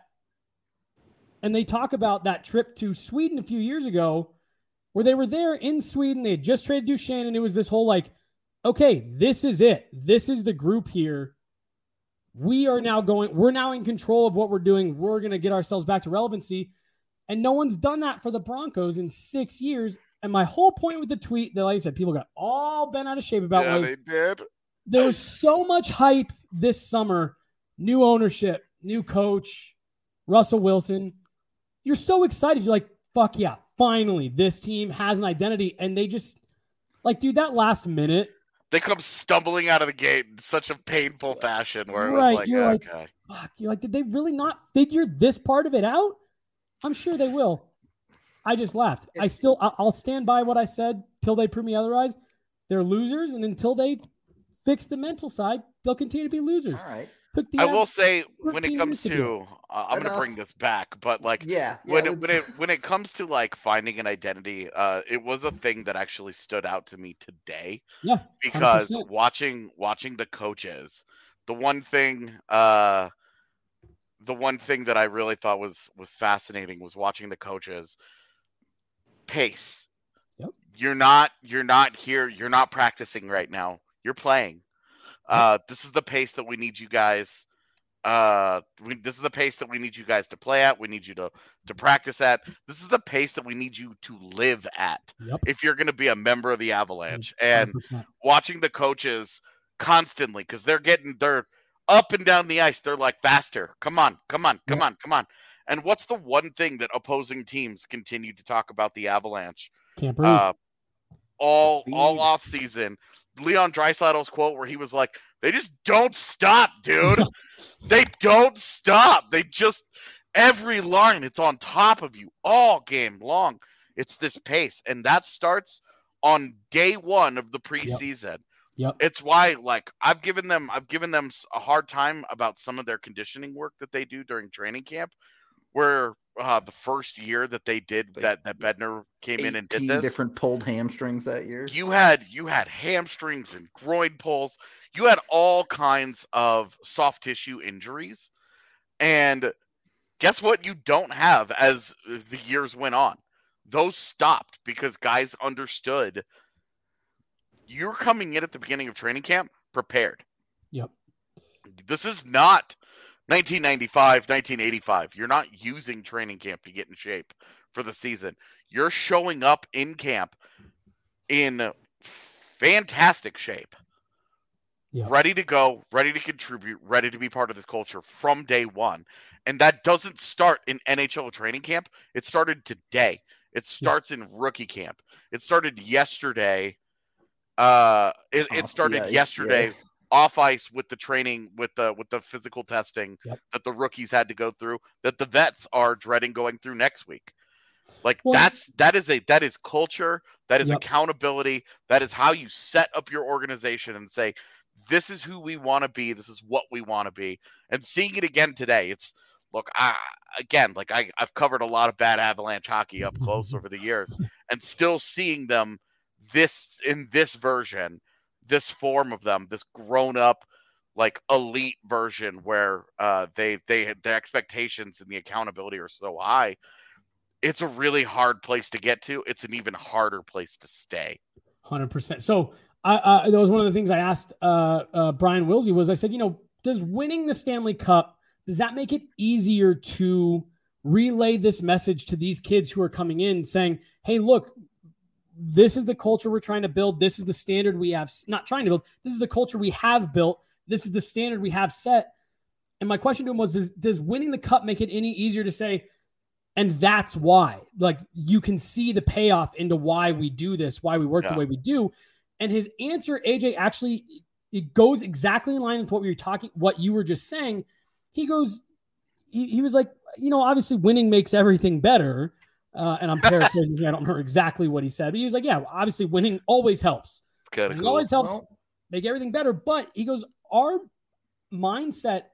Speaker 2: And they talk about that trip to Sweden a few years ago where they were there in Sweden. They had just traded Duchesne, and it was this whole like, okay, this is it. This is the group here. We are now going, we're now in control of what we're doing. We're going to get ourselves back to relevancy. And no one's done that for the Broncos in six years. And my whole point with the tweet that, like I said, people got all bent out of shape about
Speaker 3: Yeah,
Speaker 2: was
Speaker 3: they did.
Speaker 2: there was so much hype this summer. New ownership, new coach, Russell Wilson. You're so excited. You're like, fuck yeah, finally, this team has an identity. And they just, like, dude, that last minute
Speaker 3: They come stumbling out of the gate in such a painful fashion where it was
Speaker 2: Right,
Speaker 3: like,
Speaker 2: you're like,
Speaker 3: okay.
Speaker 2: fuck. You're like, did they really not figure this part of it out? I'm sure they will. I just laughed. I still, I- I'll stand by what I said till they prove me otherwise. They're losers, and until they fix the mental side, they'll continue to be losers.
Speaker 1: All right.
Speaker 2: Took the
Speaker 3: I will
Speaker 2: Avs
Speaker 3: say when it
Speaker 2: thirteen
Speaker 3: comes
Speaker 2: years ago.
Speaker 3: to, uh, I'm going to
Speaker 1: Enough.
Speaker 3: bring this back, but like
Speaker 1: Yeah. yeah
Speaker 3: when it, when
Speaker 1: let's-
Speaker 3: it when it comes to like finding an identity, uh, it was a thing that actually stood out to me today.
Speaker 2: Yeah,
Speaker 3: because
Speaker 2: one hundred percent.
Speaker 3: watching watching the coaches, the one thing, uh, the one thing that I really thought was was fascinating was watching the coaches pace.
Speaker 2: Yep.
Speaker 3: You're not you're not here. You're not practicing right now. You're playing. Uh, this is the pace that we need you guys. Uh, we, this is the pace that we need you guys to play at. We need you to to practice at. This is the pace that we need you to live at.
Speaker 2: Yep.
Speaker 3: If you're going to be a member of the Avalanche,
Speaker 2: one hundred
Speaker 3: and
Speaker 2: percent.
Speaker 3: watching the coaches constantly because they're getting they're up and down the ice. They're like faster. Come on, come on, come
Speaker 2: Yep.
Speaker 3: on, come on. And what's the one thing that opposing teams continue to talk about the Avalanche?
Speaker 2: Can't breathe.
Speaker 3: Uh, all
Speaker 1: Speed.
Speaker 3: all off season. Leon Draisaitl's quote where he was like, "They just don't stop, dude. They don't stop. They just every line it's on top of you all game long. It's this pace, and that starts on day one of the preseason.
Speaker 2: Yep.
Speaker 3: It's why, like, I've given them, I've given them a hard time about some of their conditioning work that they do during training camp. Where uh, the first year that they did
Speaker 1: Like,
Speaker 3: that, that Bednar came in and did
Speaker 1: eighteen
Speaker 3: this,
Speaker 1: different pulled hamstrings that year.
Speaker 3: you had you had hamstrings and groin pulls. You had all kinds of soft tissue injuries, and guess what? You don't have as the years went on. Those stopped because guys understood you're coming in at the beginning of training camp prepared.
Speaker 2: Yep.
Speaker 3: This is not nineteen ninety-five, nineteen eighty-five. You're not using training camp to get in shape for the season. You're showing up in camp in fantastic shape,
Speaker 2: Yep.
Speaker 3: ready to go, ready to contribute, ready to be part of this culture from day one. And that doesn't start in N H L training camp. It started today. It starts in rookie camp. It started yesterday. Uh, it, it
Speaker 1: Off
Speaker 3: started
Speaker 1: the ice,
Speaker 3: yesterday.
Speaker 1: yeah.
Speaker 3: Off ice with the training, with the with the physical testing
Speaker 2: Yep.
Speaker 3: that the rookies had to go through, that the vets are dreading going through next week. Like
Speaker 2: Well-
Speaker 3: that's that is a that is culture, that is
Speaker 2: Yep.
Speaker 3: accountability, that is how you set up your organization and say, this is who we want to be, this is what we want to be. And seeing it again today, it's look, I again, like I, I've covered a lot of bad Avalanche hockey up close over the years, and still seeing them this in this version. This form of them, this grown-up, like elite version, where uh, they they the expectations and the accountability are so high. It's a really hard place to get to. It's an even harder place to stay.
Speaker 2: one hundred percent. So I, uh, that was one of the things I asked uh, uh, Brian Wilsey was I said, you know, does winning the Stanley Cup, does that make it easier to relay this message to these kids who are coming in saying, hey, look, this is the culture we're trying to build. This is the standard we have, not trying to build. This is the culture we have built. This is the standard we have set. And my question to him was, does, does winning the cup make it any easier to say, and that's why, like, you can see the payoff into why we do this, why we work
Speaker 3: Yeah.
Speaker 2: the way we do. And his answer, A J, actually, it goes exactly in line with what we were talking, what you were just saying. He goes, he, he was like, you know, obviously winning makes everything better. Uh, and I'm paraphrasing here. I don't remember exactly what he said, but he was like, yeah, obviously winning always helps.
Speaker 3: Kind of
Speaker 2: Winning
Speaker 3: cool.
Speaker 2: always helps
Speaker 1: Well-
Speaker 2: make everything better. But he goes, our mindset,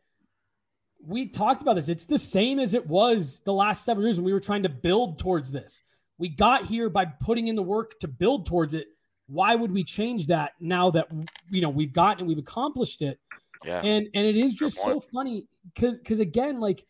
Speaker 2: we talked about this. It's the same as it was the last seven years when we were trying to build towards this. We got here by putting in the work to build towards it. Why would we change that now that, you know, we've gotten, we've accomplished it?
Speaker 3: Yeah.
Speaker 2: And, and it is
Speaker 3: Good
Speaker 2: just so
Speaker 3: point.
Speaker 2: funny because, because again, like,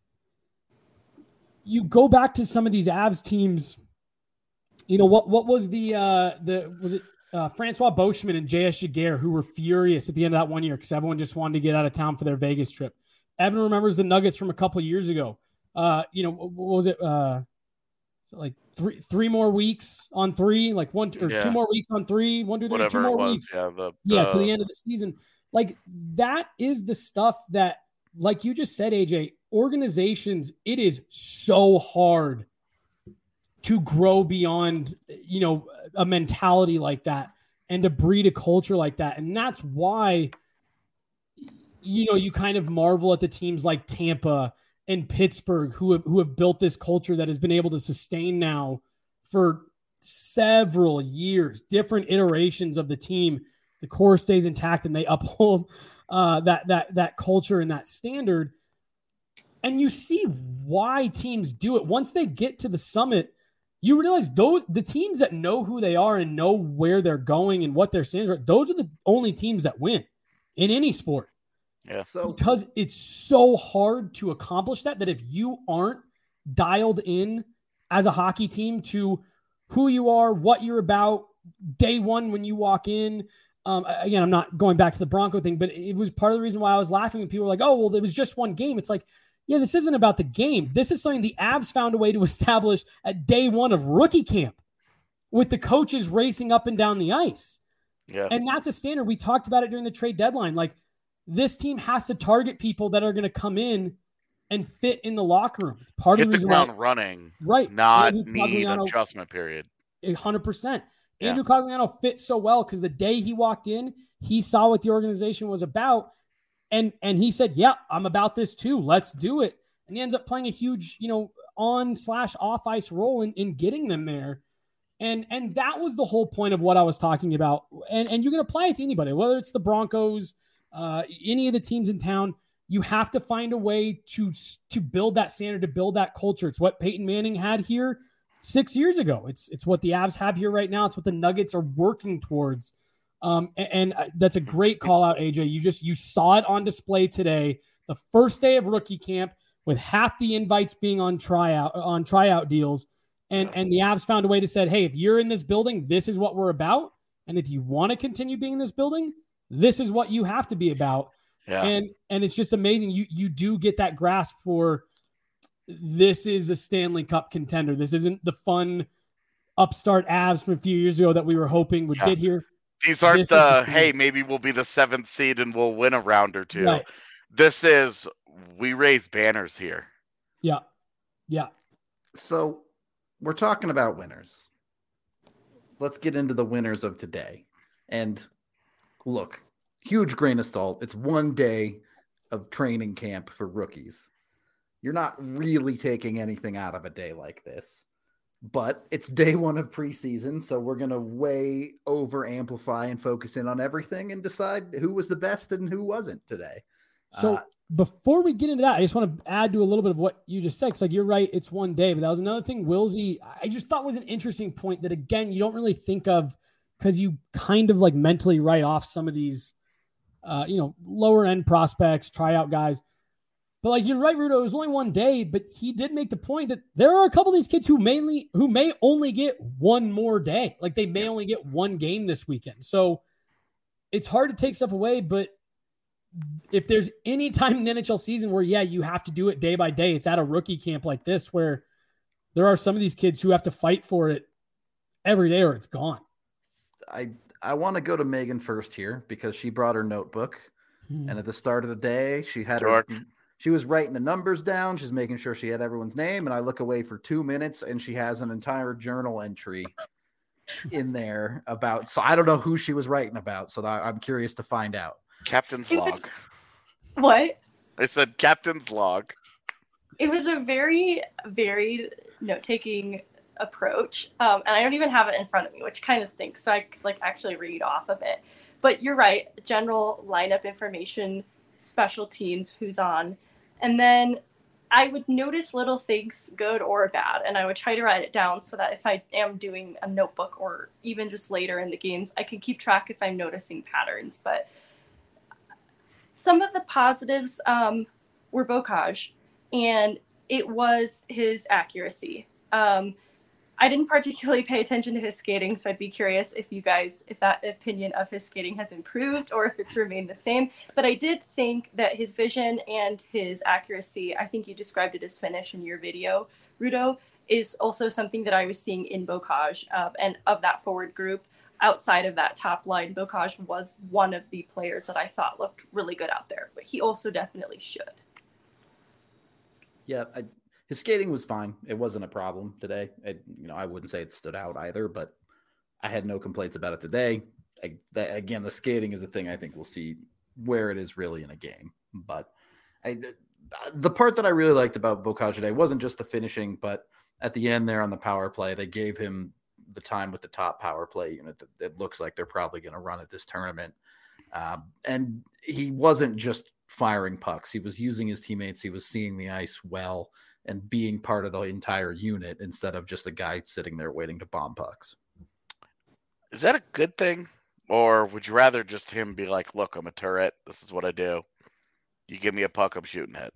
Speaker 2: you go back to some of these Avs teams, you know, what, what was the, uh, the, was it uh, Francois Beauchemin and J S Giguère who were furious at the end of that one year because everyone just wanted to get out of town for their Vegas trip. Evan remembers the Nuggets from a couple of years ago. Uh, you know, what was it? Uh, so like three, three more weeks on three, like one or
Speaker 3: Yeah.
Speaker 2: two more weeks on three, one, two, three,
Speaker 3: Whatever
Speaker 2: two more
Speaker 3: it was.
Speaker 2: weeks.
Speaker 3: Yeah. The,
Speaker 2: Yeah, to
Speaker 3: the-
Speaker 2: the end of the season. Like, that is the stuff that, like you just said, A J, organizations, it is so hard to grow beyond, you know, a mentality like that and to breed a culture like that. And that's why, you know, you kind of marvel at the teams like Tampa and Pittsburgh who have, who have built this culture that has been able to sustain now for several years, different iterations of the team. The core stays intact and they uphold uh, that, that, that culture and that standard. And you see why teams do it. Once they get to the summit, you realize those the teams that know who they are and know where they're going and what their standards are, those are the only teams that win in any sport.
Speaker 3: Yeah.
Speaker 1: So
Speaker 2: Because it's so hard to accomplish that, that if you aren't dialed in as a hockey team to who you are, what you're about, day one when you walk in. Um, again, I'm not going back to the Bronco thing, but it was part of the reason why I was laughing when people were like, oh, well, it was just one game. It's like, yeah, this isn't about the game. This is something the Avs found a way to establish at day one of rookie camp with the coaches racing up and down the ice.
Speaker 3: Yeah.
Speaker 2: And that's a standard. We talked about it during the trade deadline. Like, this team has to target people that are going to come in and fit in the locker room. It's part
Speaker 3: Hit
Speaker 2: of
Speaker 3: the,
Speaker 2: the
Speaker 3: ground
Speaker 2: why,
Speaker 3: running,
Speaker 2: right?
Speaker 3: not
Speaker 2: Andrew
Speaker 3: need
Speaker 2: Cogliano,
Speaker 3: adjustment period.
Speaker 2: one hundred percent.
Speaker 3: Yeah.
Speaker 2: Andrew Cogliano fit so well because the day he walked in, he saw what the organization was about, and and he said, yeah, I'm about this too. Let's do it. And he ends up playing a huge, you know, on slash off ice role in, in getting them there. And and that was the whole point of what I was talking about. And, and you can apply it to anybody, whether it's the Broncos, uh, any of the teams in town. You have to find a way to, to build that standard, to build that culture. It's what Peyton Manning had here six years ago. It's it's what the Avs have here right now. It's what the Nuggets are working towards. Um, and, and that's a great call out, A J. You just you saw it on display today, the first day of rookie camp, with half the invites being on tryout on tryout deals. And, and the Avs found a way to say, hey, if you're in this building, this is what we're about. And if you want to continue being in this building, this is what you have to be about.
Speaker 3: Yeah.
Speaker 2: And and it's just amazing. You you do get that grasp for this is a Stanley Cup contender. This isn't the fun upstart Avs from a few years ago that we were hoping would
Speaker 3: Yeah.
Speaker 2: get here.
Speaker 3: These aren't
Speaker 2: This is
Speaker 3: the,
Speaker 2: the
Speaker 3: hey, maybe we'll be the seventh seed and we'll win a round or two.
Speaker 2: Right.
Speaker 3: This is, we raise banners here.
Speaker 2: Yeah. Yeah.
Speaker 1: So we're talking about winners. Let's get into the winners of today. And look, huge grain of salt. It's one day of training camp for rookies. You're not really taking anything out of a day like this, but it's day one of preseason. So we're going to way over amplify and focus in on everything and decide who was the best and who wasn't today.
Speaker 2: So
Speaker 1: Uh,
Speaker 2: before we get into that, I just want to add to a little bit of what you just said. Cause like, you're right. It's one day, but that was another thing Wilsey, I just thought was an interesting point that, again, you don't really think of because you kind of like mentally write off some of these, uh, you know, lower end prospects, tryout guys. But like, you're right, Rudo, it was only one day, but he did make the point that there are a couple of these kids who mainly, who may only get one more day. Like, they may only get one game this weekend. So it's hard to take stuff away, but if there's any time in the N H L season where, yeah, you have to do it day by day, it's at a rookie camp like this, where there are some of these kids who have to fight for it every day or it's gone.
Speaker 1: I I want to go to Megan first here because she brought her notebook,
Speaker 2: Hmm.
Speaker 1: and at the start of the day, she had
Speaker 3: Sure.
Speaker 1: her, she was writing the numbers down. She's making sure she had everyone's name, and I look away for two minutes, and she has an entire journal entry in there about. So I don't know who she was writing about. So I, I'm curious to find out.
Speaker 3: Captain's
Speaker 4: It
Speaker 3: log.
Speaker 4: was- What?
Speaker 3: I said captain's log.
Speaker 4: It was a very varied note-taking approach, um, and I don't even have it in front of me, which kind of stinks. So I could, like, actually read off of it. But you're right. General lineup information, special teams, who's on, and then I would notice little things, good or bad, and I would try to write it down so that if I am doing a notebook or even just later in the games, I can keep track if I'm noticing patterns. But some of the positives um, were Bocage, and it was his accuracy. Um, I didn't particularly pay attention to his skating, so I'd be curious if you guys, if that opinion of his skating has improved or if it's remained the same. But I did think that his vision and his accuracy, I think you described it as finish in your video, Rudo, is also something that I was seeing in Bocage. Uh, and of that forward group, outside of that top line, Bocage was one of the players that I thought looked really good out there. But he also definitely should.
Speaker 1: Yeah, I, his skating was fine. It wasn't a problem today. It, you know, I wouldn't say it stood out either, but I had no complaints about it today. I, that, again, the skating is a thing I think we'll see where it is really in a game. But I, the, the part that I really liked about Beaucage today wasn't just the finishing, but at the end there on the power play, they gave him the time with the top power play unit that it looks like they're probably going to run at this tournament. Um, and he wasn't just firing pucks. He was using his teammates. He was seeing the ice well and being part of the entire unit instead of just a guy sitting there waiting to bomb pucks.
Speaker 3: Is that a good thing? Or would you rather just him be like, look, I'm a turret. This is what I do. You give me a puck, I'm shooting it.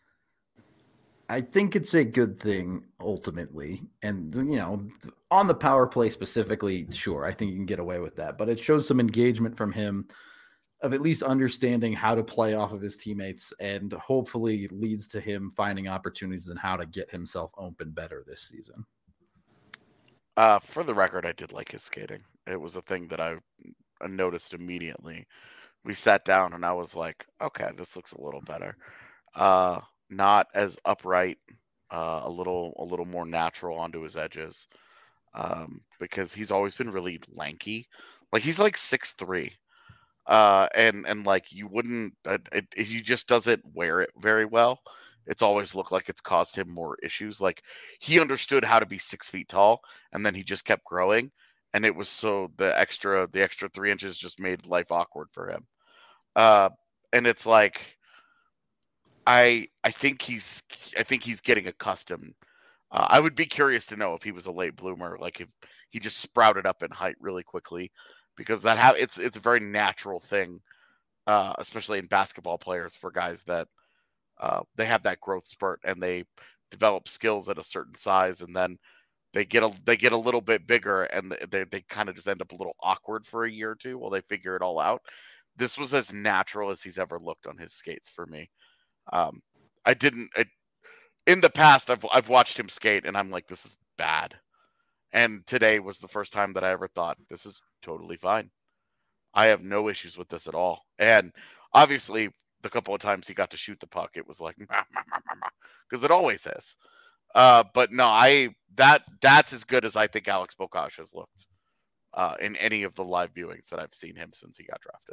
Speaker 1: I think it's a good thing ultimately. And, you know, on the power play specifically, sure, I think you can get away with that. But it shows some engagement from him of at least understanding how to play off of his teammates, and hopefully leads to him finding opportunities and how to get himself open better this season.
Speaker 3: Uh, for the record, I did like his skating. It was a thing that I noticed immediately. We sat down and I was like, okay, this looks a little better. Uh, not as upright, uh, a little a little more natural onto his edges, um, because he's always been really lanky. Like he's like six three. Uh, and, and like you wouldn't, uh, it, it, he just doesn't wear it very well. It's always looked like it's caused him more issues. Like he understood how to be six feet tall, and then he just kept growing. And it was so the extra, the extra three inches just made life awkward for him. Uh, and it's like, I, I think he's, I think he's getting accustomed. Uh, I would be curious to know if he was a late bloomer, like if he just sprouted up in height really quickly. Because that ha- it's it's a very natural thing, uh, especially in basketball players, for guys that uh, they have that growth spurt and they develop skills at a certain size, and then they get a they get a little bit bigger, and they they kind of just end up a little awkward for a year or two while they figure it all out. This was as natural as he's ever looked on his skates for me. Um, I didn't I, in the past. I've I've watched him skate, and I'm like, this is bad. And today was the first time that I ever thought, this is totally fine. I have no issues with this at all. And obviously, the couple of times he got to shoot the puck, it was like, because it always is. Uh, but no, I that that's as good as I think Alex Beaucage has looked uh, in any of the live viewings that I've seen him since he got drafted.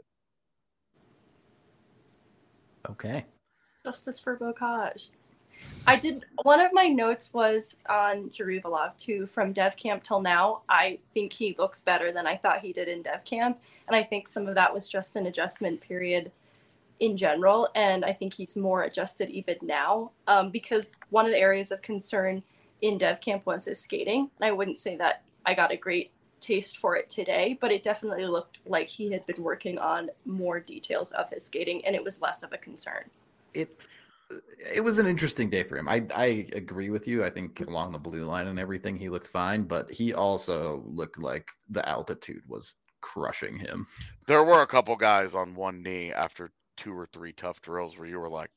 Speaker 1: Okay.
Speaker 4: Justice for Beaucage. I did, one of my notes was on Jaruvalov too, from Dev Camp till now. I think he looks better than I thought he did in Dev Camp. And I think some of that was just an adjustment period in general. And I think he's more adjusted even now, um, because one of the areas of concern in Dev Camp was his skating. And I wouldn't say that I got a great taste for it today, but it definitely looked like he had been working on more details of his skating, and it was less of a concern.
Speaker 1: It It was an interesting day for him. I, I agree with you. I think along the blue line and everything, he looked fine, but he also looked like the altitude was crushing him.
Speaker 3: There were a couple guys on one knee after two or three tough drills where you were like,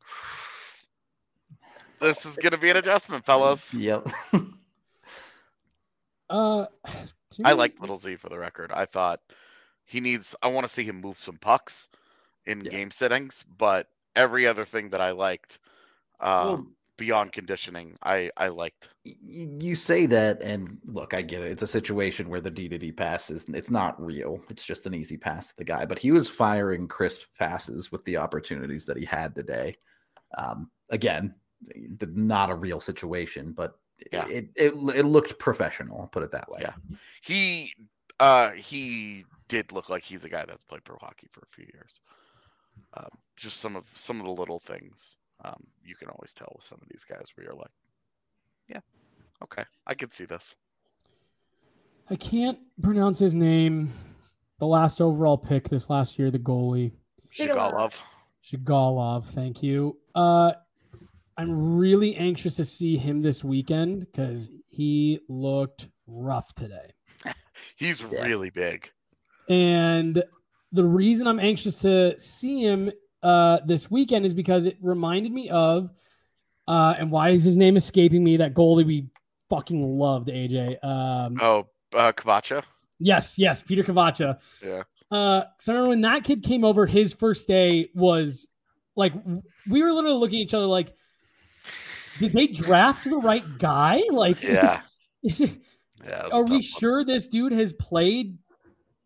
Speaker 3: this is going to be an adjustment, fellas.
Speaker 1: Yep.
Speaker 2: uh,
Speaker 3: I like Little Z for the record. I thought he needs, I want to see him move some pucks in
Speaker 1: Yeah.
Speaker 3: game settings, but every other thing that I liked, uh,
Speaker 1: Well,
Speaker 3: beyond conditioning, I, I liked.
Speaker 1: You say that, and look, I get it. It's a situation where the D to D pass is, it's not real. It's just an easy pass to the guy. But he was firing crisp passes with the opportunities that he had today. Um, again, not a real situation, but
Speaker 3: Yeah.
Speaker 1: it, it it looked professional. I'll put it that way.
Speaker 3: Yeah. He uh, he did look like he's a guy that's played pro hockey for a few years. Um, just some of some of the little things um, you can always tell with some of these guys where you're like, yeah, okay, I can see this.
Speaker 2: I can't pronounce his name. The last overall pick this last year, the goalie.
Speaker 3: Shigalov.
Speaker 2: Shigalov, thank you. Uh, I'm really anxious to see him this weekend because he looked rough today.
Speaker 3: He's
Speaker 1: Yeah.
Speaker 3: really big.
Speaker 2: And the reason I'm anxious to see him uh, this weekend is because it reminded me of, uh, and why is his name escaping me, that goalie we fucking loved, A J. Um,
Speaker 3: Oh, uh, Kavacha?
Speaker 2: yes, yes, Peter Kavacha.
Speaker 3: Yeah.
Speaker 2: Uh, so I remember when that kid came over, his first day was like, we were literally looking at each other like, did they draft the right guy? Like,
Speaker 3: Yeah.
Speaker 2: is it,
Speaker 3: Yeah.
Speaker 2: are we sure this dude has played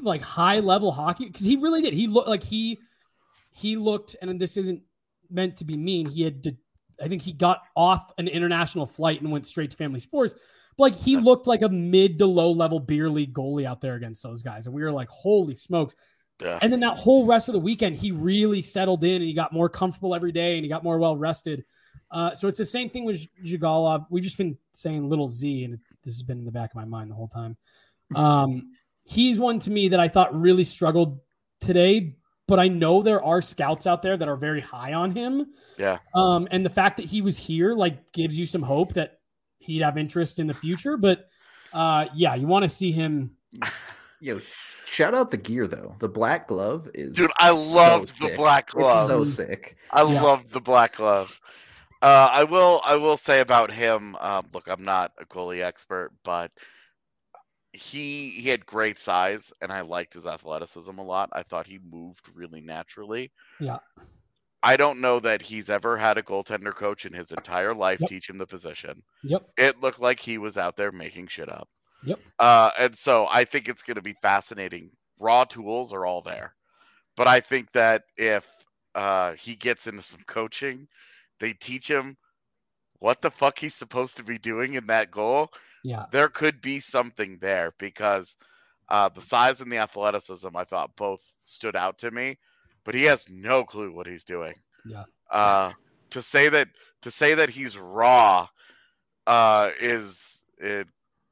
Speaker 2: like high level hockey, because he really did. He looked like he he looked, and this isn't meant to be mean. He had to, I think he got off an international flight and went straight to family sports. But like he looked like a mid to low level beer league goalie out there against those guys, and we were like, holy smokes.
Speaker 3: Yeah.
Speaker 2: And then that whole rest of the weekend, he really settled in and he got more comfortable every day and he got more well rested. Uh, so it's the same thing with Zhigalov. We've just been saying little Z, and this has been in the back of my mind the whole time. Um, he's one to me that I thought really struggled today, but I know there are scouts out there that are very high on him.
Speaker 3: Yeah.
Speaker 2: Um, and the fact that he was here like gives you some hope that he'd have interest in the future. But uh, yeah, you want to see him.
Speaker 1: Yo, shout out the gear though. The black glove is
Speaker 3: Dude, I loved
Speaker 1: so
Speaker 3: the
Speaker 1: sick.
Speaker 3: black glove.
Speaker 1: It's so sick.
Speaker 3: I
Speaker 2: Yeah.
Speaker 3: loved the black glove. Uh, I will. I will say about him. Um, look, I'm not a goalie expert, but he he had great size, and I liked his athleticism a lot. I thought he moved really naturally.
Speaker 2: Yeah.
Speaker 3: I don't know that he's ever had a goaltender coach in his entire life
Speaker 2: Yep.
Speaker 3: teach him the position.
Speaker 2: Yep.
Speaker 3: It looked like he was out there making shit up.
Speaker 2: Yep.
Speaker 3: Uh, and so I think it's going to be fascinating. Raw tools are all there, but I think that if uh, he gets into some coaching, they teach him what the fuck he's supposed to be doing in that goal.
Speaker 2: Yeah.
Speaker 3: There could be something there because uh, the size and the athleticism I thought both stood out to me, but he has no clue what he's doing.
Speaker 2: Yeah.
Speaker 3: Uh, to say that to say that he's raw uh, is it,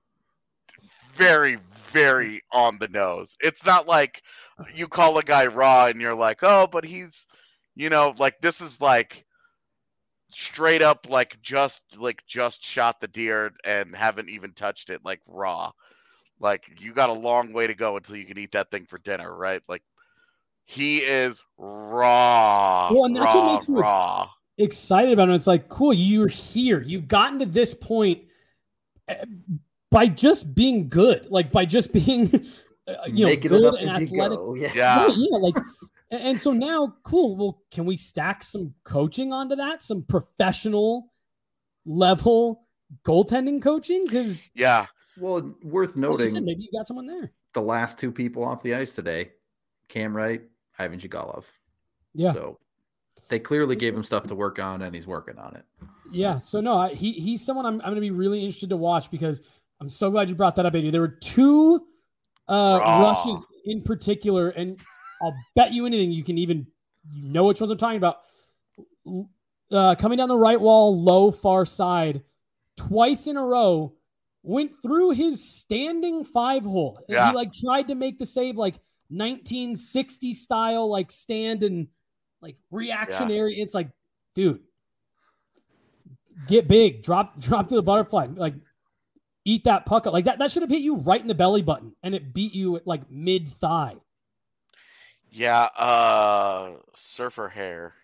Speaker 3: very, very on the nose. It's not like you call a guy raw and you're like, oh, but he's, you know, like this is like straight up like just like just shot the deer and haven't even touched it, like raw. Like you got a long way to go until you can eat that thing for dinner, right? Like he is raw.
Speaker 2: Well, and that's
Speaker 3: raw,
Speaker 2: what makes me
Speaker 3: raw.
Speaker 2: excited about it. It's like, cool, you're here. You've gotten to this point by just being good, like by just being, uh, you know,
Speaker 1: Making
Speaker 2: good
Speaker 1: it up
Speaker 2: and
Speaker 1: as you
Speaker 2: athletic.
Speaker 1: go. Yeah.
Speaker 3: Yeah.
Speaker 2: Right, yeah, like, and and so now, cool. Well, can we stack some coaching onto that? Some professional level goaltending coaching? Because
Speaker 3: Yeah.
Speaker 1: Well, worth
Speaker 2: like you
Speaker 1: noting,
Speaker 2: said, maybe you got someone there.
Speaker 1: the last two people off the ice today, Cam Wright, Ivan Zhigalov.
Speaker 2: Yeah,
Speaker 1: So they clearly gave him stuff to work on, and he's working on it.
Speaker 2: yeah. So no, I, he he's someone I'm I'm going to be really interested to watch because I'm so glad you brought that up, A J. There were two uh,
Speaker 3: Raw.
Speaker 2: rushes in particular, and I'll bet you anything you can even you know which ones I'm talking about. Uh, coming down the right wall, low far side, twice in a row, went through his standing five hole. And
Speaker 3: Yeah.
Speaker 2: He like tried to make the save like nineteen sixty style, like stand and like reactionary. It's like, dude, get big, drop, drop to the butterfly, like eat that puck up. Like that, that should have hit you right in the belly button and it beat you at like mid thigh.
Speaker 3: Yeah. Uh, surfer hair.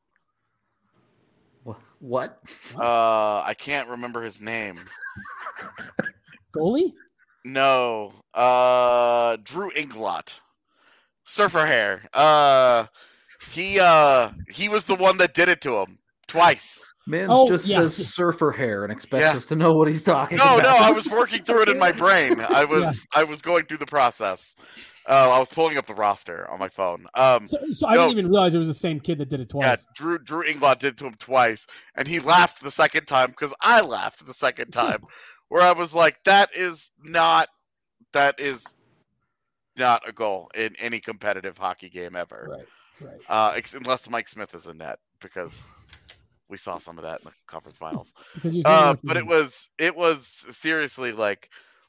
Speaker 1: Wha- What?
Speaker 3: Uh, I can't remember his name.
Speaker 2: Goalie?
Speaker 3: No. Uh, Drew Inglot. Surfer hair. Uh, he uh he was the one that did it to him twice.
Speaker 1: Man
Speaker 2: Oh,
Speaker 1: just
Speaker 2: yeah.
Speaker 1: says surfer hair and expects
Speaker 3: Yeah.
Speaker 1: us to know what he's talking
Speaker 3: No,
Speaker 1: about.
Speaker 3: no, I was working through it in my brain. I was I was going through the process. Uh, I was pulling up the roster on my phone. Um,
Speaker 2: So, so I
Speaker 3: No.
Speaker 2: didn't even realize it was the same kid that did it
Speaker 3: yeah,
Speaker 2: twice.
Speaker 3: Drew Drew Inglot did it to him twice, and he laughed the second time because I laughed the second time, where I was like, "That is not, that is not a goal in any competitive hockey game ever,
Speaker 2: Right, right.
Speaker 3: uh, ex- unless Mike Smith is in net because we saw some of that in the conference finals."
Speaker 2: Because he was doing
Speaker 3: Uh,
Speaker 2: it for
Speaker 3: but it
Speaker 2: him.
Speaker 3: was it was seriously like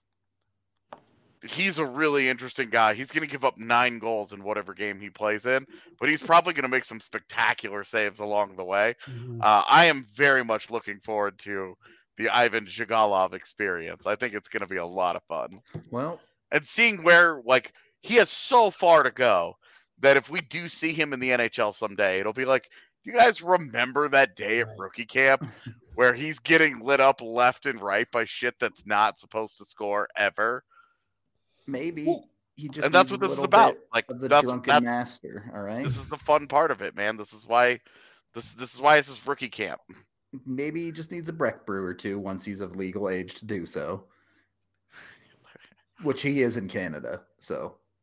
Speaker 3: he's a really interesting guy. He's going to give up nine goals in whatever game he plays in, but he's probably going to make some spectacular saves along the way.
Speaker 2: Mhm.
Speaker 3: Uh, I am very much looking forward to the Ivan Zhigalov experience. I think it's going to be a lot of fun.
Speaker 1: Well,
Speaker 3: And seeing where, like, he has so far to go that if we do see him in the N H L someday, it'll be like, you guys remember that day at
Speaker 2: Right.
Speaker 3: rookie camp where he's getting lit up left and right by shit that's not supposed to score ever?
Speaker 1: maybe
Speaker 2: Well,
Speaker 1: he just
Speaker 3: And that's
Speaker 1: needs
Speaker 3: what
Speaker 1: a
Speaker 3: this is
Speaker 1: little
Speaker 3: about.
Speaker 1: bit
Speaker 3: Like,
Speaker 1: of the
Speaker 3: that's,
Speaker 1: drunken
Speaker 3: that's
Speaker 1: master. All right.
Speaker 3: this is the fun part of it, man. This is why this this is why this is rookie camp.
Speaker 1: Maybe he just needs a Breck brew or two once he's of legal age to do so, which he is in Canada. So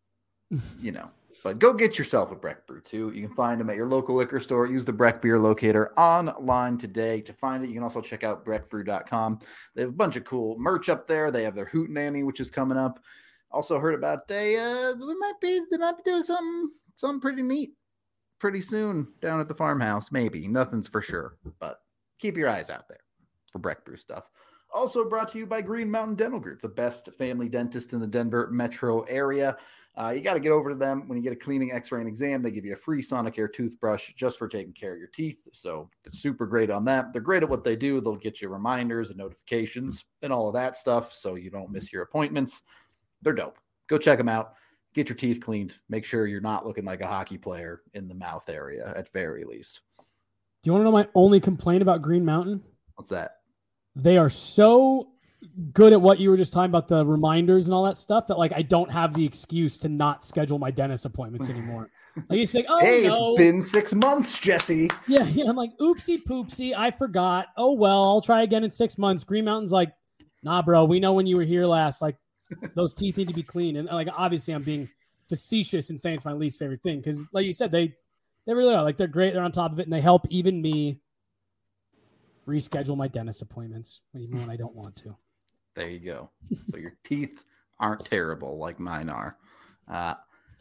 Speaker 1: you know. But go get yourself a Breck Brew, too. You can find them at your local liquor store. Use the Breck Beer Locator online today to find it. You can also check out breck brew dot com. They have a bunch of cool merch up there. They have their Hootenanny, which is coming up. Also heard about they uh we might be they might be doing something something pretty neat pretty soon down at the farmhouse. Maybe. Nothing's for sure. But keep your eyes out there for Breck Brew stuff. Also brought to you by Green Mountain Dental Group, the best family dentist in the Denver metro area. Uh, you got to get over to them when you get a cleaning, x-ray, and exam. They give you a free Sonicare toothbrush just for taking care of your teeth. So they're super great on that. They're great at what they do. They'll get you reminders and notifications and all of that stuff so you don't miss your appointments. They're dope. Go check them out. Get your teeth cleaned. Make sure you're not looking like a hockey player in the mouth area at very least.
Speaker 2: Do you want to know my only complaint about Green Mountain?
Speaker 1: What's that?
Speaker 2: They are so good at what you were just talking about, the reminders and all that stuff, that like I don't have the excuse to not schedule my dentist appointments anymore. Like you think, oh
Speaker 1: hey,
Speaker 2: no.
Speaker 1: It's been six months, Jesse.
Speaker 2: Yeah, yeah. I'm like, oopsie poopsie, I forgot. Oh well, I'll try again in six months. Green Mountain's like, nah, bro, we know when you were here last. Like those teeth need to be clean. And like obviously I'm being facetious and saying it's my least favorite thing because, like you said, they they really are. Like they're great. They're on top of it, and they help even me reschedule my dentist appointments even when I don't want to.
Speaker 1: There you go. So your teeth aren't terrible like mine are. Uh,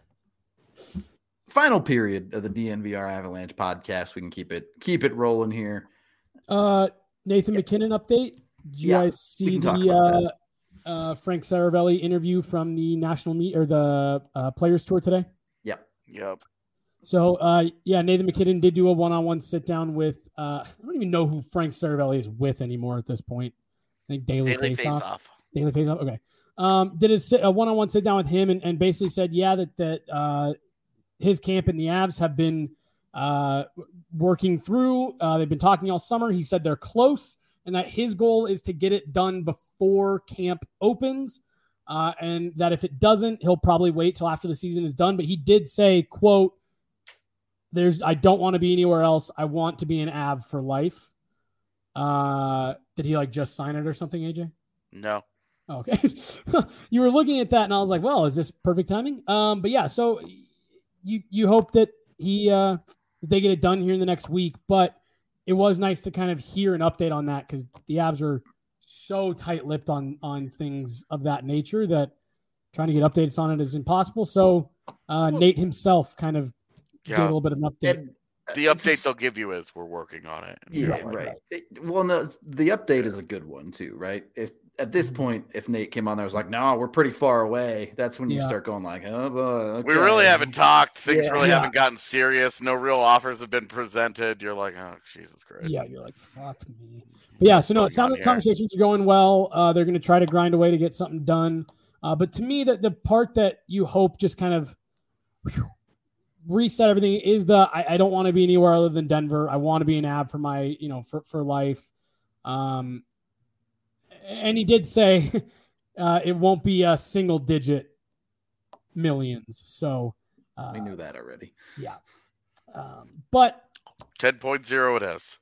Speaker 1: final period of the D N V R Avalanche podcast. We can keep it keep it rolling here.
Speaker 2: Uh, Nathan yeah. McKinnon update. Did you
Speaker 1: yeah,
Speaker 2: guys see the uh, uh, Frank Saravelli interview from the national meet or the uh, Players Tour today?
Speaker 1: Yep.
Speaker 3: Yep.
Speaker 2: So, uh, yeah, Nathan McKinnon did do a one-on-one sit-down with uh, – I don't even know who Frank Saravelli is with anymore at this point. I think Daily,
Speaker 3: Daily
Speaker 2: Face Off.
Speaker 3: Off.
Speaker 2: Daily Face Off, okay. Um, did a, sit, a one-on-one sit-down with him and, and basically said, yeah, that that uh, his camp and the Avs have been uh, working through. Uh, they've been talking all summer. He said they're close and that his goal is to get it done before camp opens uh, and that if it doesn't, he'll probably wait till after the season is done. But he did say, quote, There's, I don't want to be anywhere else. I want to be an Av for life. Uh, did he like just sign it or something, A J?
Speaker 3: No.
Speaker 2: Oh, okay. You were looking at that and I was like, well, is this perfect timing? Um, but yeah, so you, you hope that he, uh, they get it done here in the next week, but it was nice to kind of hear an update on that because the Avs are so tight-lipped on, on things of that nature that trying to get updates on it is impossible. So uh, Nate himself kind of
Speaker 3: Yeah.
Speaker 2: Get a little bit of an update.
Speaker 1: And, uh,
Speaker 3: the update
Speaker 1: just,
Speaker 3: they'll give you is we're working on it.
Speaker 1: Yeah,
Speaker 2: right,
Speaker 1: right.
Speaker 2: right.
Speaker 1: It, well, no, the update is a good one too, right? If at this
Speaker 2: Mhm.
Speaker 1: point, if Nate came on there, was like, "No, we're pretty far away." That's when you
Speaker 2: Yeah.
Speaker 1: start going like, "Oh, boy, okay.
Speaker 3: We really haven't talked. Things
Speaker 1: Yeah.
Speaker 3: really
Speaker 2: Yeah.
Speaker 3: haven't gotten serious. No real offers have been presented. You're like, oh, Jesus Christ.
Speaker 2: Yeah, you're like, fuck me. But yeah, so no, it sounds like conversations are going well. Uh, they're going to try to grind away to get something done. Uh, but to me, the, the part that you hope just kind of whew, reset everything is the I, I don't want to be anywhere other than Denver. I want to be an Av for my, you know, for, for life. Um, and he did say uh, it won't be a single digit millions. So uh,
Speaker 1: we knew that already.
Speaker 2: Yeah. Um, but
Speaker 3: ten point oh it is.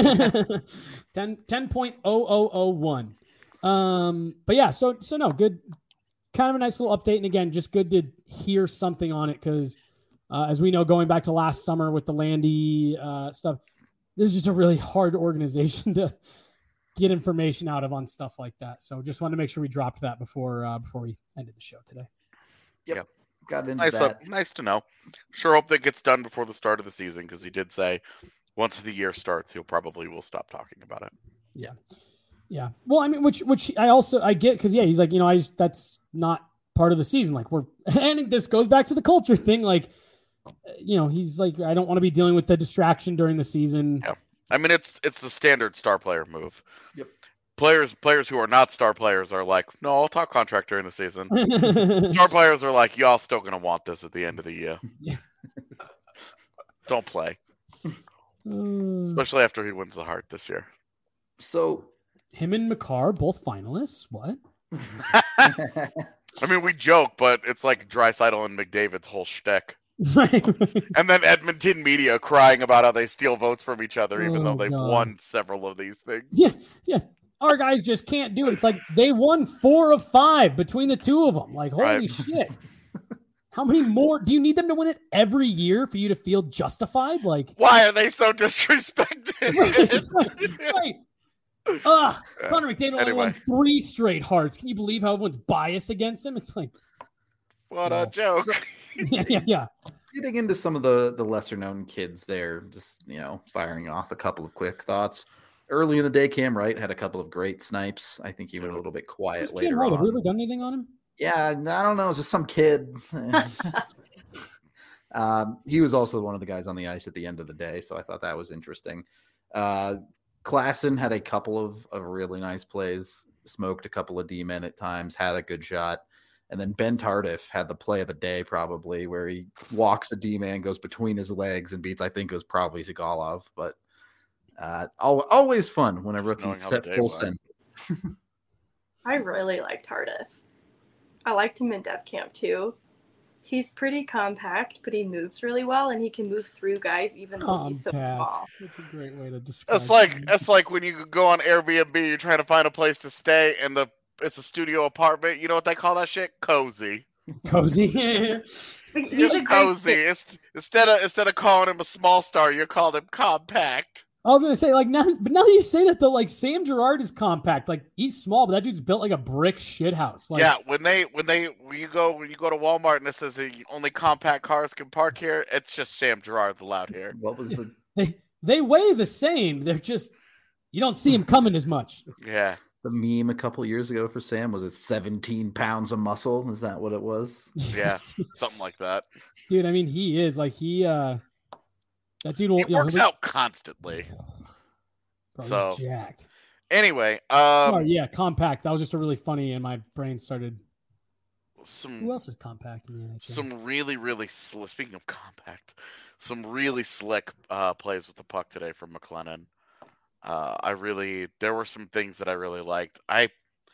Speaker 2: ten, ten point oh oh oh one. Um, but yeah, so so no, good, kind of a nice little update. And again, just good to hear something on it because uh, as we know, going back to last summer with the Landy uh, stuff, this is just a really hard organization to get information out of on stuff like that. So just wanted to make sure we dropped that before uh, before we ended the show today.
Speaker 1: Yep.
Speaker 3: Yep.
Speaker 1: Got into
Speaker 3: Nice,
Speaker 1: that.
Speaker 3: up, nice to know. Sure hope that gets done before the start of the season because he did say once the year starts, he'll probably will stop talking about it.
Speaker 2: Yeah. Yeah. Well, I mean, which, which I also, I get, cause yeah, he's like, you know, I just, that's not part of the season. Like we're, and this goes back to the culture thing. Like, you know, he's like, I don't want to be dealing with the distraction during the season.
Speaker 3: Yeah. I mean, it's, it's the standard star player move.
Speaker 1: Yep.
Speaker 3: Players, players who are not star players are like, no, I'll talk contract during the season. Star players are like, y'all still going to want this at the end of the year.
Speaker 2: Yeah.
Speaker 3: Don't play.
Speaker 2: Uh,
Speaker 3: Especially after he wins the Hart this year.
Speaker 1: So
Speaker 2: him and McCarr, both finalists. What?
Speaker 3: I mean, we joke, but it's like Draisaitl and McDavid's whole shtick.
Speaker 2: Right.
Speaker 3: And then Edmonton media crying about how they steal votes from each other, even
Speaker 2: Oh,
Speaker 3: though they've
Speaker 2: God.
Speaker 3: won several of these things.
Speaker 2: Yeah. Yeah. Our guys just can't do it. It's like they won four of five between the two of them. Like, holy
Speaker 3: Right.
Speaker 2: shit. How many more? Do you need them to win it every year for you to feel justified? Like,
Speaker 3: why are they so disrespected?
Speaker 2: right. right. Ugh, Connor McDavid only
Speaker 3: Anyway.
Speaker 2: won three straight Hearts. Can you believe how everyone's biased against him? It's like,
Speaker 3: What
Speaker 2: No.
Speaker 3: a joke.
Speaker 1: So-
Speaker 2: yeah, yeah, yeah.
Speaker 1: Getting into some of the the lesser known kids there, just you know, firing off a couple of quick thoughts. Early in the day, Cam Wright had a couple of great snipes. I think he went a little bit quiet
Speaker 2: Who's Cam
Speaker 1: later
Speaker 2: Wright? Have we
Speaker 1: on.
Speaker 2: ever done anything on him?
Speaker 1: Yeah, I don't know, just some kid. um, he was also one of the guys on the ice at the end of the day, so I thought that was interesting. Uh, Klassen had a couple of, of really nice plays, smoked a couple of D-men at times, had a good shot. And then Ben Tardif had the play of the day probably, where he walks a D-man, goes between his legs and beats, I think it was probably Sigalov. But uh, al- always fun when a rookie
Speaker 3: knowing how
Speaker 1: set
Speaker 3: the day
Speaker 1: full
Speaker 3: went.
Speaker 1: sense.
Speaker 4: I really like Tardif. I liked him in Dev Camp too. He's pretty compact, but he moves really well, and he can move through guys even though he's so
Speaker 2: Compact.
Speaker 4: small.
Speaker 2: That's a great way to describe
Speaker 3: It's like
Speaker 2: him.
Speaker 3: it's like when you go on Airbnb, you're trying to find a place to stay, and the it's a studio apartment. You know what they call that shit? Cozy.
Speaker 2: Cozy.
Speaker 4: But he's
Speaker 3: It's
Speaker 4: a great
Speaker 3: cozy.
Speaker 4: fit.
Speaker 3: It's, instead of instead of calling him a small star, you called him compact.
Speaker 2: I was gonna say, like, now, but now that you say that, though, like, Sam Girard is compact. Like, he's small, but that dude's built like a brick shithouse. Like,
Speaker 3: Yeah, when they when they when you go when you go to Walmart and it says that only compact cars can park here, it's just Sam Girard allowed here.
Speaker 1: What was the
Speaker 2: they they weigh the same. They're just you don't see him coming as much.
Speaker 3: Yeah.
Speaker 1: the meme a couple years ago for Sam? Was it seventeen pounds of muscle? Is that what it was?
Speaker 3: Yeah, something like that.
Speaker 2: dude. I mean, he is like he. uh That dude
Speaker 3: He
Speaker 2: won't. You know,
Speaker 3: works
Speaker 2: he'll be-
Speaker 3: out constantly.
Speaker 2: Bro, he's
Speaker 3: so-
Speaker 2: jacked.
Speaker 3: Anyway, um,
Speaker 2: oh yeah, compact. That was just a really funny, and my brain started. Who
Speaker 3: some
Speaker 2: else is compact in the N H L?
Speaker 3: some really really sl- speaking of compact, some really slick uh, plays with the puck today from McLennan. Uh, I really there were some things that I really liked. I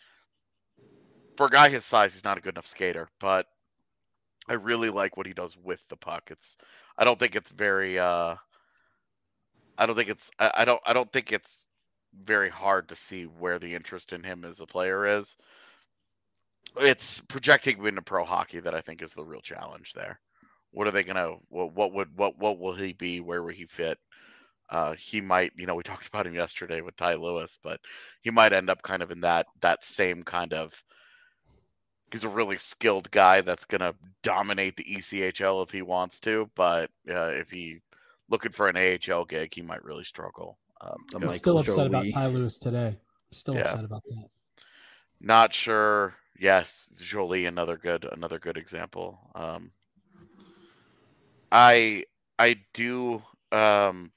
Speaker 3: for a guy his size, he's not a good enough skater, but I really like what he does with the puck. It's I don't think it's very uh, I don't think it's I, I don't I don't think it's very hard to see where the interest in him as a player is. It's projecting him into pro hockey that I think is the real challenge there. What are they gonna? What, what would what what will he be? Where will he fit? Uh, he might, you know, we talked about him yesterday with Ty Lewis, but he might end up kind of in that that same kind of. He's a really skilled guy that's gonna dominate the E C H L if he wants to, but uh, if he looking for an A H L gig, he might really struggle. Um,
Speaker 1: A
Speaker 2: I'm
Speaker 1: Michael
Speaker 2: still upset about
Speaker 1: Jolie.
Speaker 2: Ty Lewis today. I'm still
Speaker 3: Yeah.
Speaker 2: upset about that.
Speaker 3: Not sure. Yes, Jolie, another good, another good example. Um, I, I do. Um,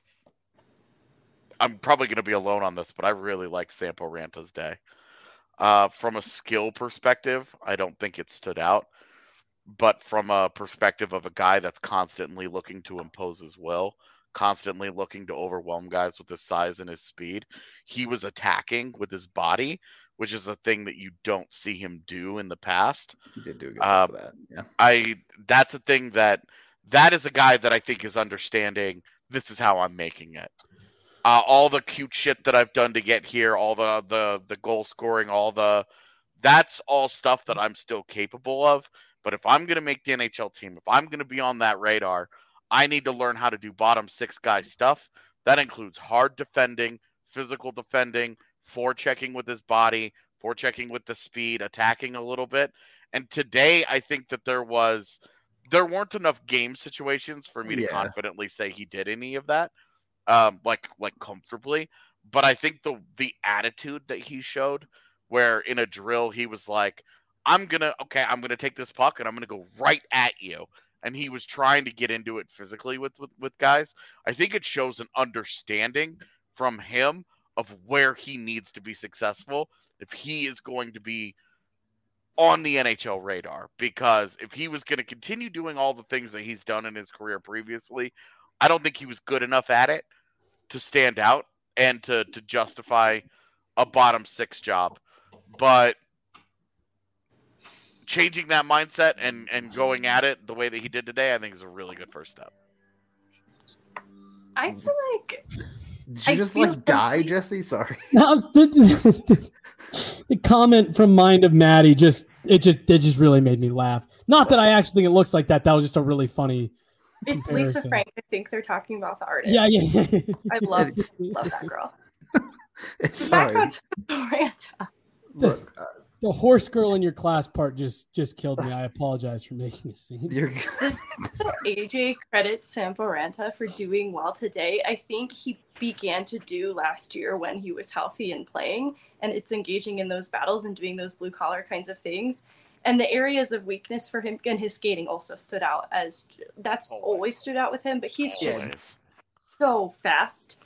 Speaker 3: I'm probably going to be alone on this, but I really like Sampo Ranta's day. Uh, from a skill perspective, I don't think it stood out. But from a perspective of a guy that's constantly looking to impose his will, constantly looking to overwhelm guys with his size and his speed, he was attacking with his body, which is a thing that you don't see him do in the past.
Speaker 1: He did do a good
Speaker 3: Uh,
Speaker 1: job of that. Yeah.
Speaker 3: I that's a thing that that is a guy that I think is understanding this is how I'm making it. Uh, all the cute shit that I've done to get here, all the the the goal scoring, all the that's all stuff that I'm still capable of. But if I'm gonna make the N H L team, if I'm gonna be on that radar, I need to learn how to do bottom six guy stuff. That includes hard defending, physical defending, forechecking with his body, forechecking with the speed, attacking a little bit. And today, I think that there was, there weren't enough game situations for me to
Speaker 1: Yeah.
Speaker 3: confidently say he did any of that, um, like like comfortably. But I think the the attitude that he showed, where in a drill he was like, "I'm gonna okay, I'm gonna take this puck and I'm gonna go right at you," and he was trying to get into it physically with with, with guys. I think it shows an understanding from him of where he needs to be successful if he is going to be on the N H L radar. Because if he was going to continue doing all the things that he's done in his career previously, I don't think he was good enough at it to stand out and to, to justify a bottom six job. But changing that mindset and, and going at it the way that he did today, I think is a really good first step.
Speaker 4: I feel like
Speaker 1: Did you
Speaker 4: I
Speaker 1: just
Speaker 4: feel
Speaker 1: like die,
Speaker 4: complete-
Speaker 1: Jesse? Sorry.
Speaker 2: That was the comment from Mind of Maddie just it just it just really made me laugh. Not that I actually think it looks like that. That was just a really funny.
Speaker 4: It's
Speaker 2: comparison.
Speaker 4: Lisa Frank. I think they're talking about the artist.
Speaker 2: Yeah, yeah, yeah.
Speaker 4: I love
Speaker 1: It's-
Speaker 4: love that girl.
Speaker 1: Sorry.
Speaker 4: Back on Samporanta.
Speaker 1: Look, uh,
Speaker 2: The horse girl in your class part just just killed me. I apologize for making a scene.
Speaker 1: you're
Speaker 4: A J credits Samporanta for doing well today. I think he began to do last year when he was healthy and playing, and it's engaging in those battles and doing those blue collar kinds of things. And the areas of weakness for him and his skating also stood out as that's
Speaker 3: Always.
Speaker 4: always stood out with him, but he's just
Speaker 3: Always.
Speaker 4: so fast.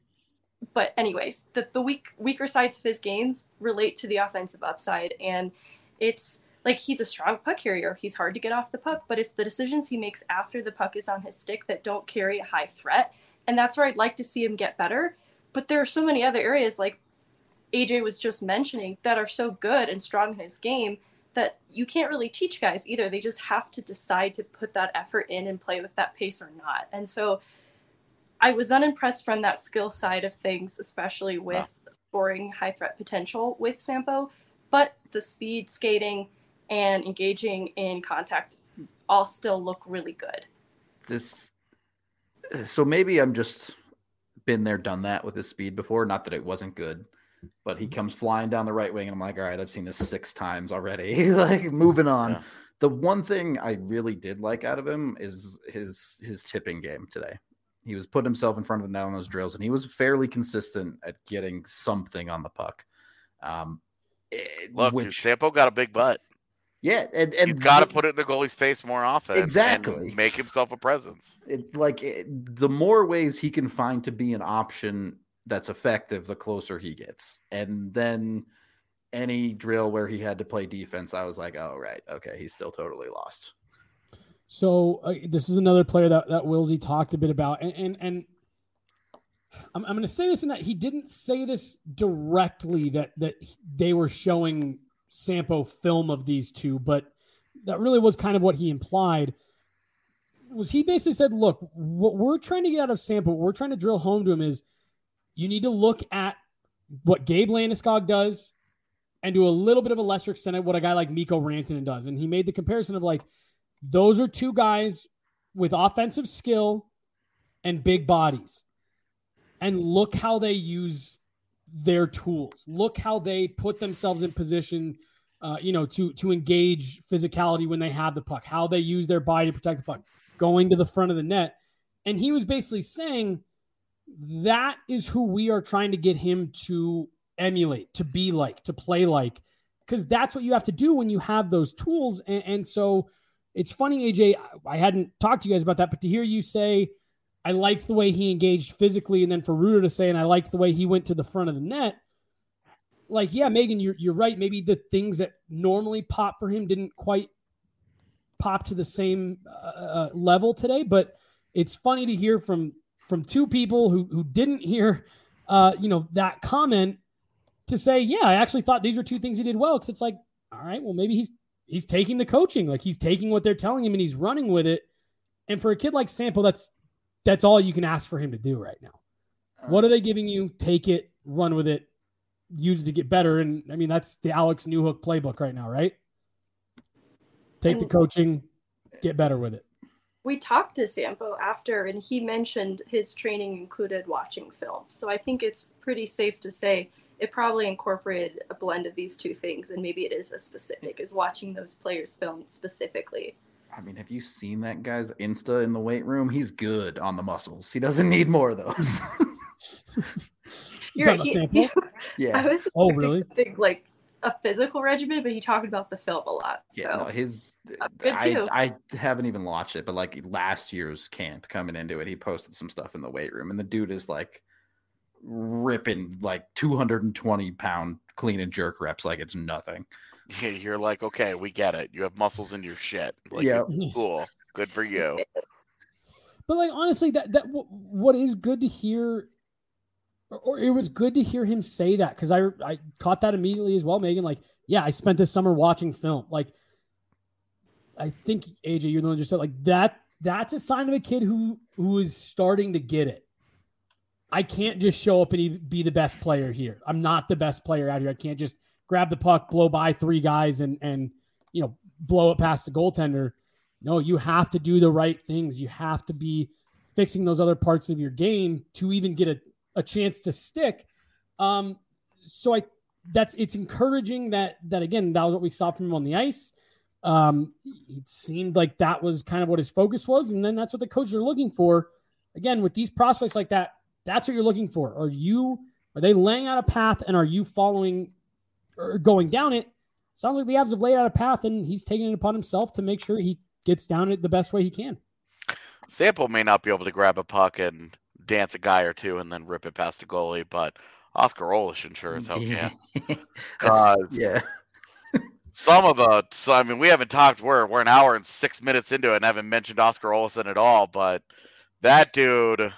Speaker 4: But anyways, the, the weak weaker sides of his games relate to the offensive upside, and it's like he's a strong puck carrier. He's hard to get off the puck, but it's the decisions he makes after the puck is on his stick that don't carry a high threat, and that's where I'd like to see him get better. But there are so many other areas, like A J was just mentioning, that are so good and strong in his game that you can't really teach guys either. They just have to decide to put that effort in and play with that pace or not. And so I was unimpressed from that skill side of things, especially with wow. scoring high threat potential with Sampo, but the speed, skating, and engaging in contact all still look really good.
Speaker 1: This, so maybe I'm just been there, done that with his speed before. Not that it wasn't good, but he comes flying down the right wing, and I'm like, all right, I've seen this six times already. Like, moving on. Yeah. The one thing I really did like out of him is his his tipping game today. He was putting himself in front of the net on those drills, and he was fairly consistent at getting something on the puck. Um, it,
Speaker 3: Look,
Speaker 1: which,
Speaker 3: dude, Sampo got a big butt.
Speaker 1: Yeah, and, and
Speaker 3: he's got to put it in the goalie's face more often.
Speaker 1: Exactly,
Speaker 3: and make himself a presence.
Speaker 1: It, like it, the more ways he can find to be an option that's effective, the closer he gets. And then any drill where he had to play defense, I was like, oh right, okay, he's still totally lost.
Speaker 2: So uh, this is another player that, that Wilsey talked a bit about. And and, and I'm, I'm going to say this in that he didn't say this directly that, that they were showing Sampo film of these two, but that really was kind of what he implied. Was he basically said, look, what we're trying to get out of Sampo, what we're trying to drill home to him is you need to look at what Gabe Landeskog does and to a little bit of a lesser extent at what a guy like Mikko Rantanen does. And he made the comparison of like, those are two guys with offensive skill and big bodies. And look how they use their tools. Look how they put themselves in position, uh, you know, to, to engage physicality when they have the puck, how they use their body to protect the puck, going to the front of the net. And he was basically saying that is who we are trying to get him to emulate, to be like, to play like, because that's what you have to do when you have those tools. And, and so it's funny, A J, I hadn't talked to you guys about that, but to hear you say, I liked the way he engaged physically, and then for Ruder to say, and I liked the way he went to the front of the net, like, yeah, Megan, you're, you're right. Maybe the things that normally pop for him didn't quite pop to the same uh, level today, but it's funny to hear from, from two people who, who didn't hear, uh, you know, that comment to say, yeah, I actually thought these were two things he did well. Cause it's like, all right, well, maybe he's, he's taking the coaching, like he's taking what they're telling him and he's running with it. And for a kid like Sampo, that's, that's all you can ask for him to do right now. What are they giving you? Take it, run with it, use it to get better. And I mean, that's the Alex Newhook playbook right now, right? Take and the coaching, get better with it.
Speaker 4: We talked to Sampo after, and he mentioned his training included watching film. So I think it's pretty safe to say it probably incorporated a blend of these two things. And maybe it is as specific as watching those players film specifically.
Speaker 1: I mean, have you seen that guy's Insta in the weight room? He's good on the muscles. He doesn't need more of those.
Speaker 4: You're right. He, he,
Speaker 1: yeah.
Speaker 4: I was
Speaker 2: oh, really?
Speaker 4: Something like a physical regimen, but he talked about the film a lot.
Speaker 1: Yeah,
Speaker 4: so.
Speaker 1: no, his
Speaker 4: good too.
Speaker 1: I, I haven't even watched it, but like last year's camp coming into it, he posted some stuff in the weight room, and the dude is like ripping like two hundred twenty pound clean and jerk reps like it's nothing.
Speaker 3: Yeah, you're like, okay, we get it. You have muscles in your shit. Like,
Speaker 1: yeah,
Speaker 3: cool, good for you.
Speaker 2: But like honestly, that that what is good to hear, or it was good to hear him say that, because I I caught that immediately as well, Megan. Like, yeah, I spent this summer watching film. Like, I think A J, you're the one who just said like that. That's a sign of a kid who who is starting to get it. I can't just show up and be the best player here. I'm not the best player out here. I can't just grab the puck, blow by three guys, and and you know blow it past the goaltender. No, you have to do the right things. You have to be fixing those other parts of your game to even get a, a chance to stick. Um, so I that's it's encouraging that that again that was what we saw from him on the ice. Um, it seemed like that was kind of what his focus was, and then that's what the coaches are looking for. Again, with these prospects like that, that's what you're looking for. Are you are they laying out a path, and are you following or going down it? Sounds like the Avs have laid out a path, and he's taking it upon himself to make sure he gets down it the best way he can.
Speaker 3: Sample may not be able to grab a puck and dance a guy or two and then rip it past a goalie, but Oscar Olashin sure as hell can.
Speaker 1: yeah.
Speaker 3: Some of the, so, I mean, we haven't talked, we're, we're an hour and six minutes into it and haven't mentioned Oscar Olashin at all, but that dude,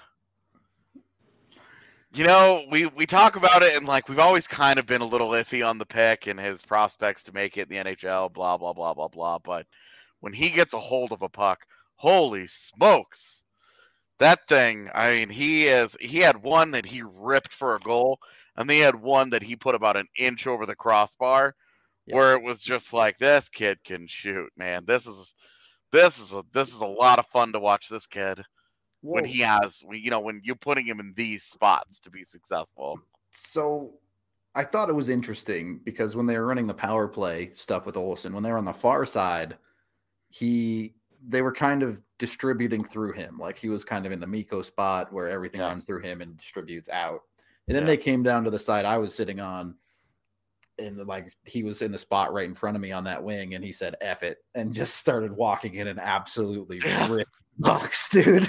Speaker 3: you know, we, we talk about it and like, we've always kind of been a little iffy on the pick and his prospects to make it in the N H L, blah, blah, blah, blah, blah. But when he gets a hold of a puck, holy smokes, that thing, I mean, he is, he had one that he ripped for a goal and then he had one that he put about an inch over the crossbar. Yeah. Where it was just like, this kid can shoot, man. This is this is a this is a lot of fun to watch this kid. Whoa. When he has, you know, when you're putting him in these spots to be successful.
Speaker 1: So I thought it was interesting because when they were running the power play stuff with Olsen, when they were on the far side, he they were kind of distributing through him. Like he was kind of in the Mikko spot where everything yeah. runs through him and distributes out. And then yeah. they came down to the side I was sitting on. And like he was in the spot right in front of me on that wing, and he said "F it" and just started walking in and absolutely ripped bucks, dude.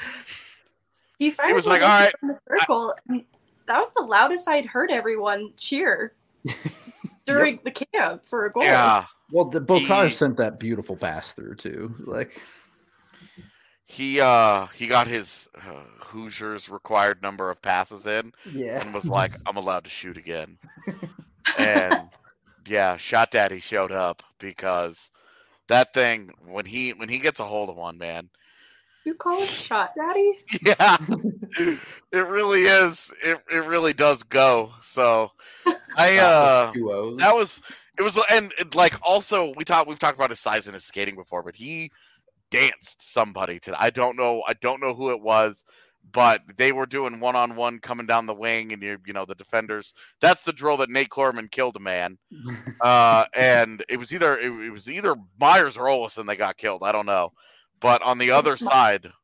Speaker 4: He,
Speaker 3: he was like, "All right,"
Speaker 4: in the circle. I, that was the loudest I'd heard everyone cheer during yep. the camp for a goal.
Speaker 3: Yeah.
Speaker 1: Well, the Bocage he, sent that beautiful pass through too. Like
Speaker 3: he uh he got his uh, Hoosiers required number of passes in,
Speaker 1: yeah,
Speaker 3: and was like, "I'm allowed to shoot again." And yeah, Shot Daddy showed up because that thing when he when he gets a hold of one, man.
Speaker 4: You call him Shot Daddy?
Speaker 3: Yeah, it really is. It it really does go. So I uh that was it was and it, like also we talked we've talked about his size and his skating before, but he danced somebody today. I don't know I don't know who it was. But they were doing one-on-one coming down the wing, and you you know the defenders. That's the drill that Nate Klorman killed a man, uh, and it was either it, it was either Myers or Olsen that got killed. I don't know, but on the other side,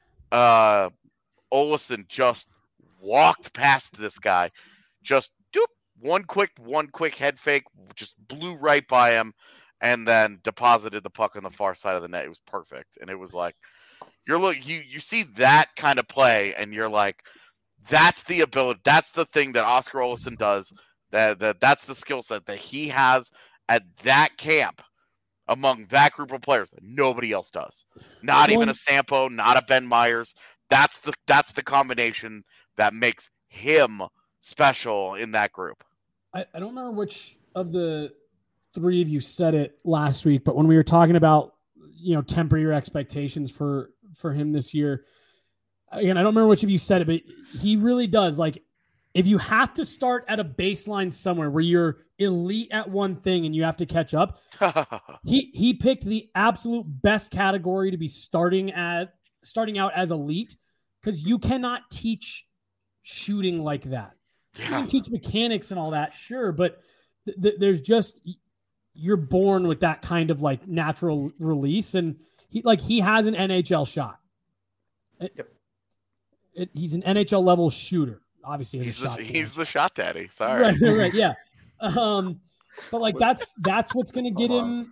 Speaker 3: uh, Olsen just walked past this guy, just doop, one quick one quick head fake, just blew right by him, and then deposited the puck on the far side of the net. It was perfect, and it was like. You're look you you see that kind of play, and you're like, that's the ability, that's the thing that Oscar Olsen does. That that that's the skill set that he has at that camp among that group of players that nobody else does. Not even a Sampo, not a Ben Myers. That's the that's the combination that makes him special in that group.
Speaker 2: I, I don't remember which of the three of you said it last week, but when we were talking about you know temper your expectations for. for him this year. Again, I don't remember which of you said it, but he really does. Like, if you have to start at a baseline somewhere where you're elite at one thing and you have to catch up, he he picked the absolute best category to be starting at starting out as elite, because you cannot teach shooting like that. Yeah. You can teach mechanics and all that, sure, but th- th- there's just you're born with that kind of like natural release, and He like he has an N H L shot. It,
Speaker 1: yep.
Speaker 2: It, he's an N H L level shooter. Obviously,
Speaker 3: he's,
Speaker 2: a
Speaker 3: the,
Speaker 2: shot
Speaker 3: he's the shot daddy. Sorry,
Speaker 2: right, right, yeah. Um, but like that's that's what's gonna get him.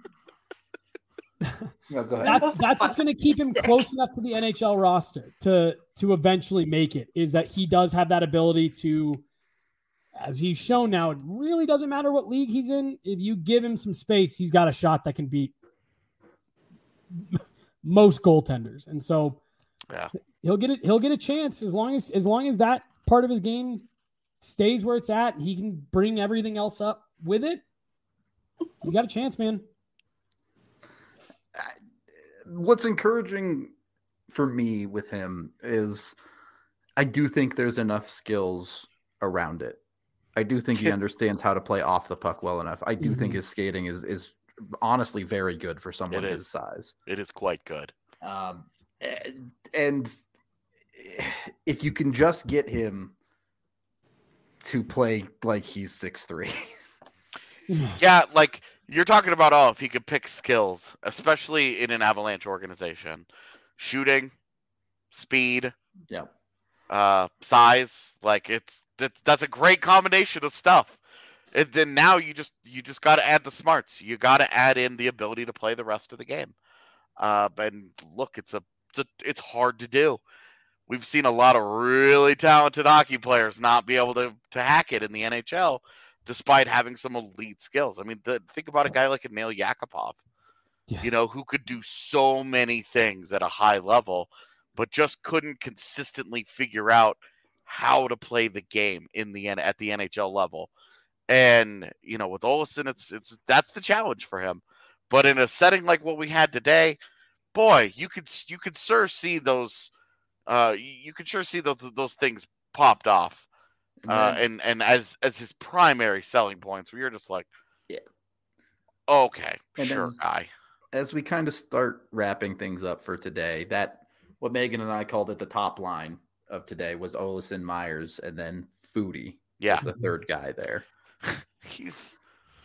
Speaker 1: No, go ahead.
Speaker 2: That's that's what's gonna keep him close enough to the N H L roster to to eventually make it. Is that he does have that ability to, as he's shown now, it really doesn't matter what league he's in. If you give him some space, he's got a shot that can beat most goaltenders, and so
Speaker 3: yeah,
Speaker 2: he'll get it. He'll get a chance as long as as long as that part of his game stays where it's at. He can bring everything else up with it. He's got a chance, man.
Speaker 1: What's encouraging for me with him is I do think there's enough skills around it. I do think he understands how to play off the puck well enough. I do
Speaker 2: Mhm.
Speaker 1: think his skating is is honestly very good for someone
Speaker 3: It
Speaker 1: his
Speaker 3: is.
Speaker 1: size.
Speaker 3: It is quite good.
Speaker 1: Um, and, and if you can just get him to play like he's six three.
Speaker 3: Yeah, like you're talking about, oh, if he could pick skills, especially in an Avalanche organization, shooting, speed,
Speaker 1: Yeah.
Speaker 3: uh, size, like it's that's that's a great combination of stuff. And then now you just you just got to add the smarts. You got to add in the ability to play the rest of the game. Uh, and look, it's a, it's a it's hard to do. We've seen a lot of really talented hockey players not be able to to hack it in the N H L, despite having some elite skills. I mean, the, think about a guy like Nail Yakupov,
Speaker 2: Yeah.
Speaker 3: you know, who could do so many things at a high level, but just couldn't consistently figure out how to play the game in the at the N H L level. And you know, with Olsen, it's it's that's the challenge for him. But in a setting like what we had today, boy, you could you could sure see those. Uh, you could sure see those those things popped off,
Speaker 1: And
Speaker 3: uh,
Speaker 1: then-
Speaker 3: and and as as his primary selling points, where you're just like,
Speaker 1: Yeah.
Speaker 3: okay,
Speaker 1: And
Speaker 3: sure,
Speaker 1: as-
Speaker 3: guy.
Speaker 1: as we kind of start wrapping things up for today, that what Megan and I called it the top line of today was Olsen, Myers, and then Foodie
Speaker 3: Yeah,
Speaker 1: as the third guy there.
Speaker 3: he's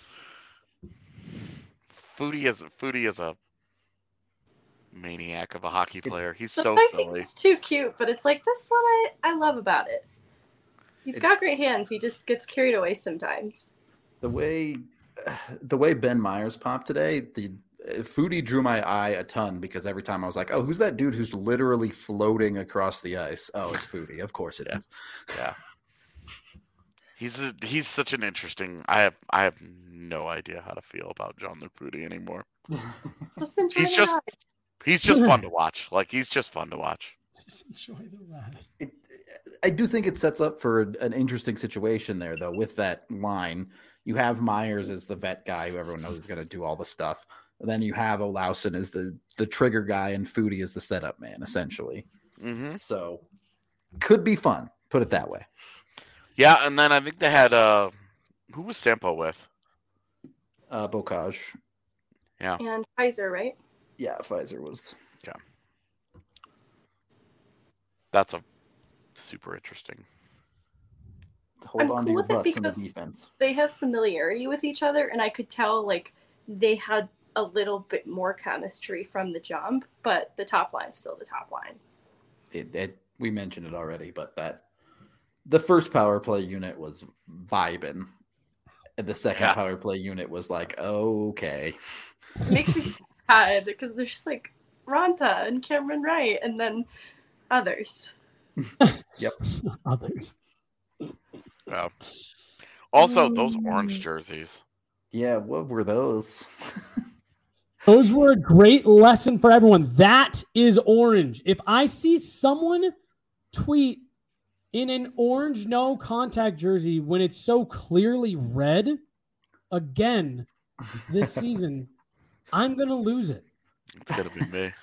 Speaker 3: Foodie is Foodie is a maniac of a hockey player. He's so
Speaker 4: Sometimes
Speaker 3: silly.
Speaker 4: it's too cute, but it's like this is what I, I love about it. He's
Speaker 1: It-
Speaker 4: got great hands. He just gets carried away sometimes.
Speaker 1: The way the way Ben Myers popped today, the Foodie drew my eye a ton because every time I was like, "Oh, who's that dude who's literally floating across the ice?" Oh, it's Foodie. Of course it is.
Speaker 3: Yeah, he's a, he's such an interesting. I have I have no idea how to feel about John the Foodie anymore.
Speaker 4: Just enjoy
Speaker 3: He's
Speaker 4: the
Speaker 3: just-
Speaker 4: ride.
Speaker 3: He's just fun to watch. Like he's just fun to watch.
Speaker 2: Just enjoy the ride.
Speaker 1: It, I do think it sets up for an interesting situation there, though, with that line. You have Myers as the vet guy who everyone knows is going to do all the stuff. And then you have Olausen as the, the trigger guy and Foodie as the setup man, essentially.
Speaker 3: Hmm
Speaker 1: So could be fun, put it that way.
Speaker 3: Yeah, and then I think they had uh, who was Sampo with?
Speaker 1: Uh, Bocage.
Speaker 4: And Pfizer, right?
Speaker 1: Yeah, Pfizer was.
Speaker 3: That's a super interesting.
Speaker 1: Hold
Speaker 4: I'm
Speaker 1: on
Speaker 4: cool
Speaker 1: to your
Speaker 4: with it
Speaker 1: butts in the
Speaker 4: because-
Speaker 1: defense.
Speaker 4: They have familiarity with each other, and I could tell like they had a little bit more chemistry from the jump, but the top line is still the top line.
Speaker 1: It, it, we mentioned it already, but that the first power play unit was vibing. And the second
Speaker 3: Yeah.
Speaker 1: power play unit was like, okay.
Speaker 4: It makes me sad because there's like Ronta and Cameron Wright, and then others.
Speaker 2: Others.
Speaker 3: Yeah. Also, those
Speaker 4: Mm.
Speaker 3: orange jerseys.
Speaker 1: Yeah, what were those?
Speaker 2: Those were a great lesson for everyone. That is orange. If I see someone tweet in an orange no contact jersey when it's so clearly red again this season, I'm going to lose it.
Speaker 3: It's gonna be me.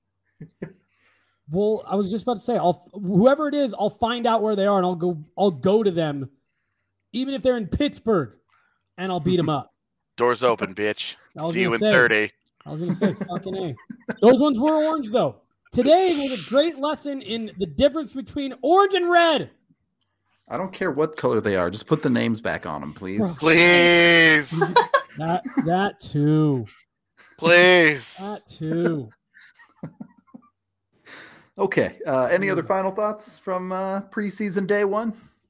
Speaker 2: Well, I was just about to say, I'll whoever it is, I'll find out where they are and I'll go I'll go to them even if they're in Pittsburgh and I'll beat them up.
Speaker 3: Doors open, bitch.
Speaker 2: I was
Speaker 3: See you
Speaker 2: gonna
Speaker 3: in
Speaker 2: say.
Speaker 3: thirty.
Speaker 2: I was going to say fucking A. Those ones were orange though. Today was a great lesson in the difference between orange and red.
Speaker 1: I don't care what color they are. Just put the names back on them, please.
Speaker 3: Please,
Speaker 2: That that too.
Speaker 3: please.
Speaker 2: That too.
Speaker 1: Okay. Uh, any other final thoughts from uh, preseason day one?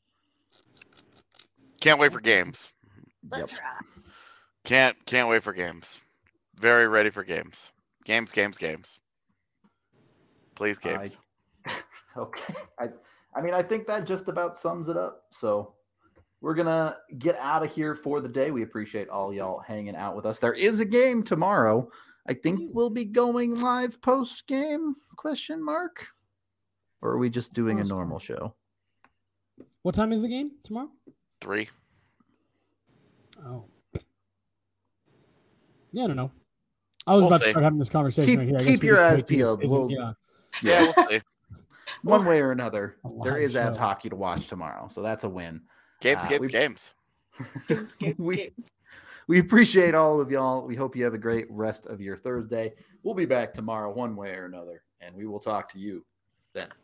Speaker 3: Can't wait for games.
Speaker 4: Let's
Speaker 1: Yep.
Speaker 4: rock.
Speaker 3: Can't can't wait for games. Very ready for games. Games, games, games. Please, games.
Speaker 1: Okay. I, I mean, I think that just about sums it up. So we're going to get out of here for the day. We appreciate all y'all hanging out with us. There is a game tomorrow. I think we'll be going live post game question mark. Or are we just doing a
Speaker 2: Post-
Speaker 1: normal show?
Speaker 2: What time is the game tomorrow?
Speaker 3: Three.
Speaker 2: Oh. Yeah, I don't know. I was
Speaker 3: We'll
Speaker 2: about
Speaker 3: see.
Speaker 2: to start having this conversation
Speaker 1: Keep-
Speaker 2: right here. I
Speaker 1: keep
Speaker 2: guess we
Speaker 1: your
Speaker 2: could
Speaker 1: eyes
Speaker 2: take this
Speaker 1: peeled.
Speaker 2: as a-
Speaker 1: We'll-
Speaker 2: yeah.
Speaker 3: Yeah, we'll see.
Speaker 1: One way or another,
Speaker 2: A
Speaker 1: there
Speaker 2: live
Speaker 1: is ads
Speaker 2: show.
Speaker 1: hockey to watch tomorrow. So that's a win.
Speaker 3: Games,
Speaker 1: Uh,
Speaker 3: games,
Speaker 1: we-
Speaker 3: games.
Speaker 4: Games, games,
Speaker 1: we,
Speaker 4: games.
Speaker 1: we appreciate all of y'all. We hope you have a great rest of your Thursday. We'll be back tomorrow one way or another, and we will talk to you then.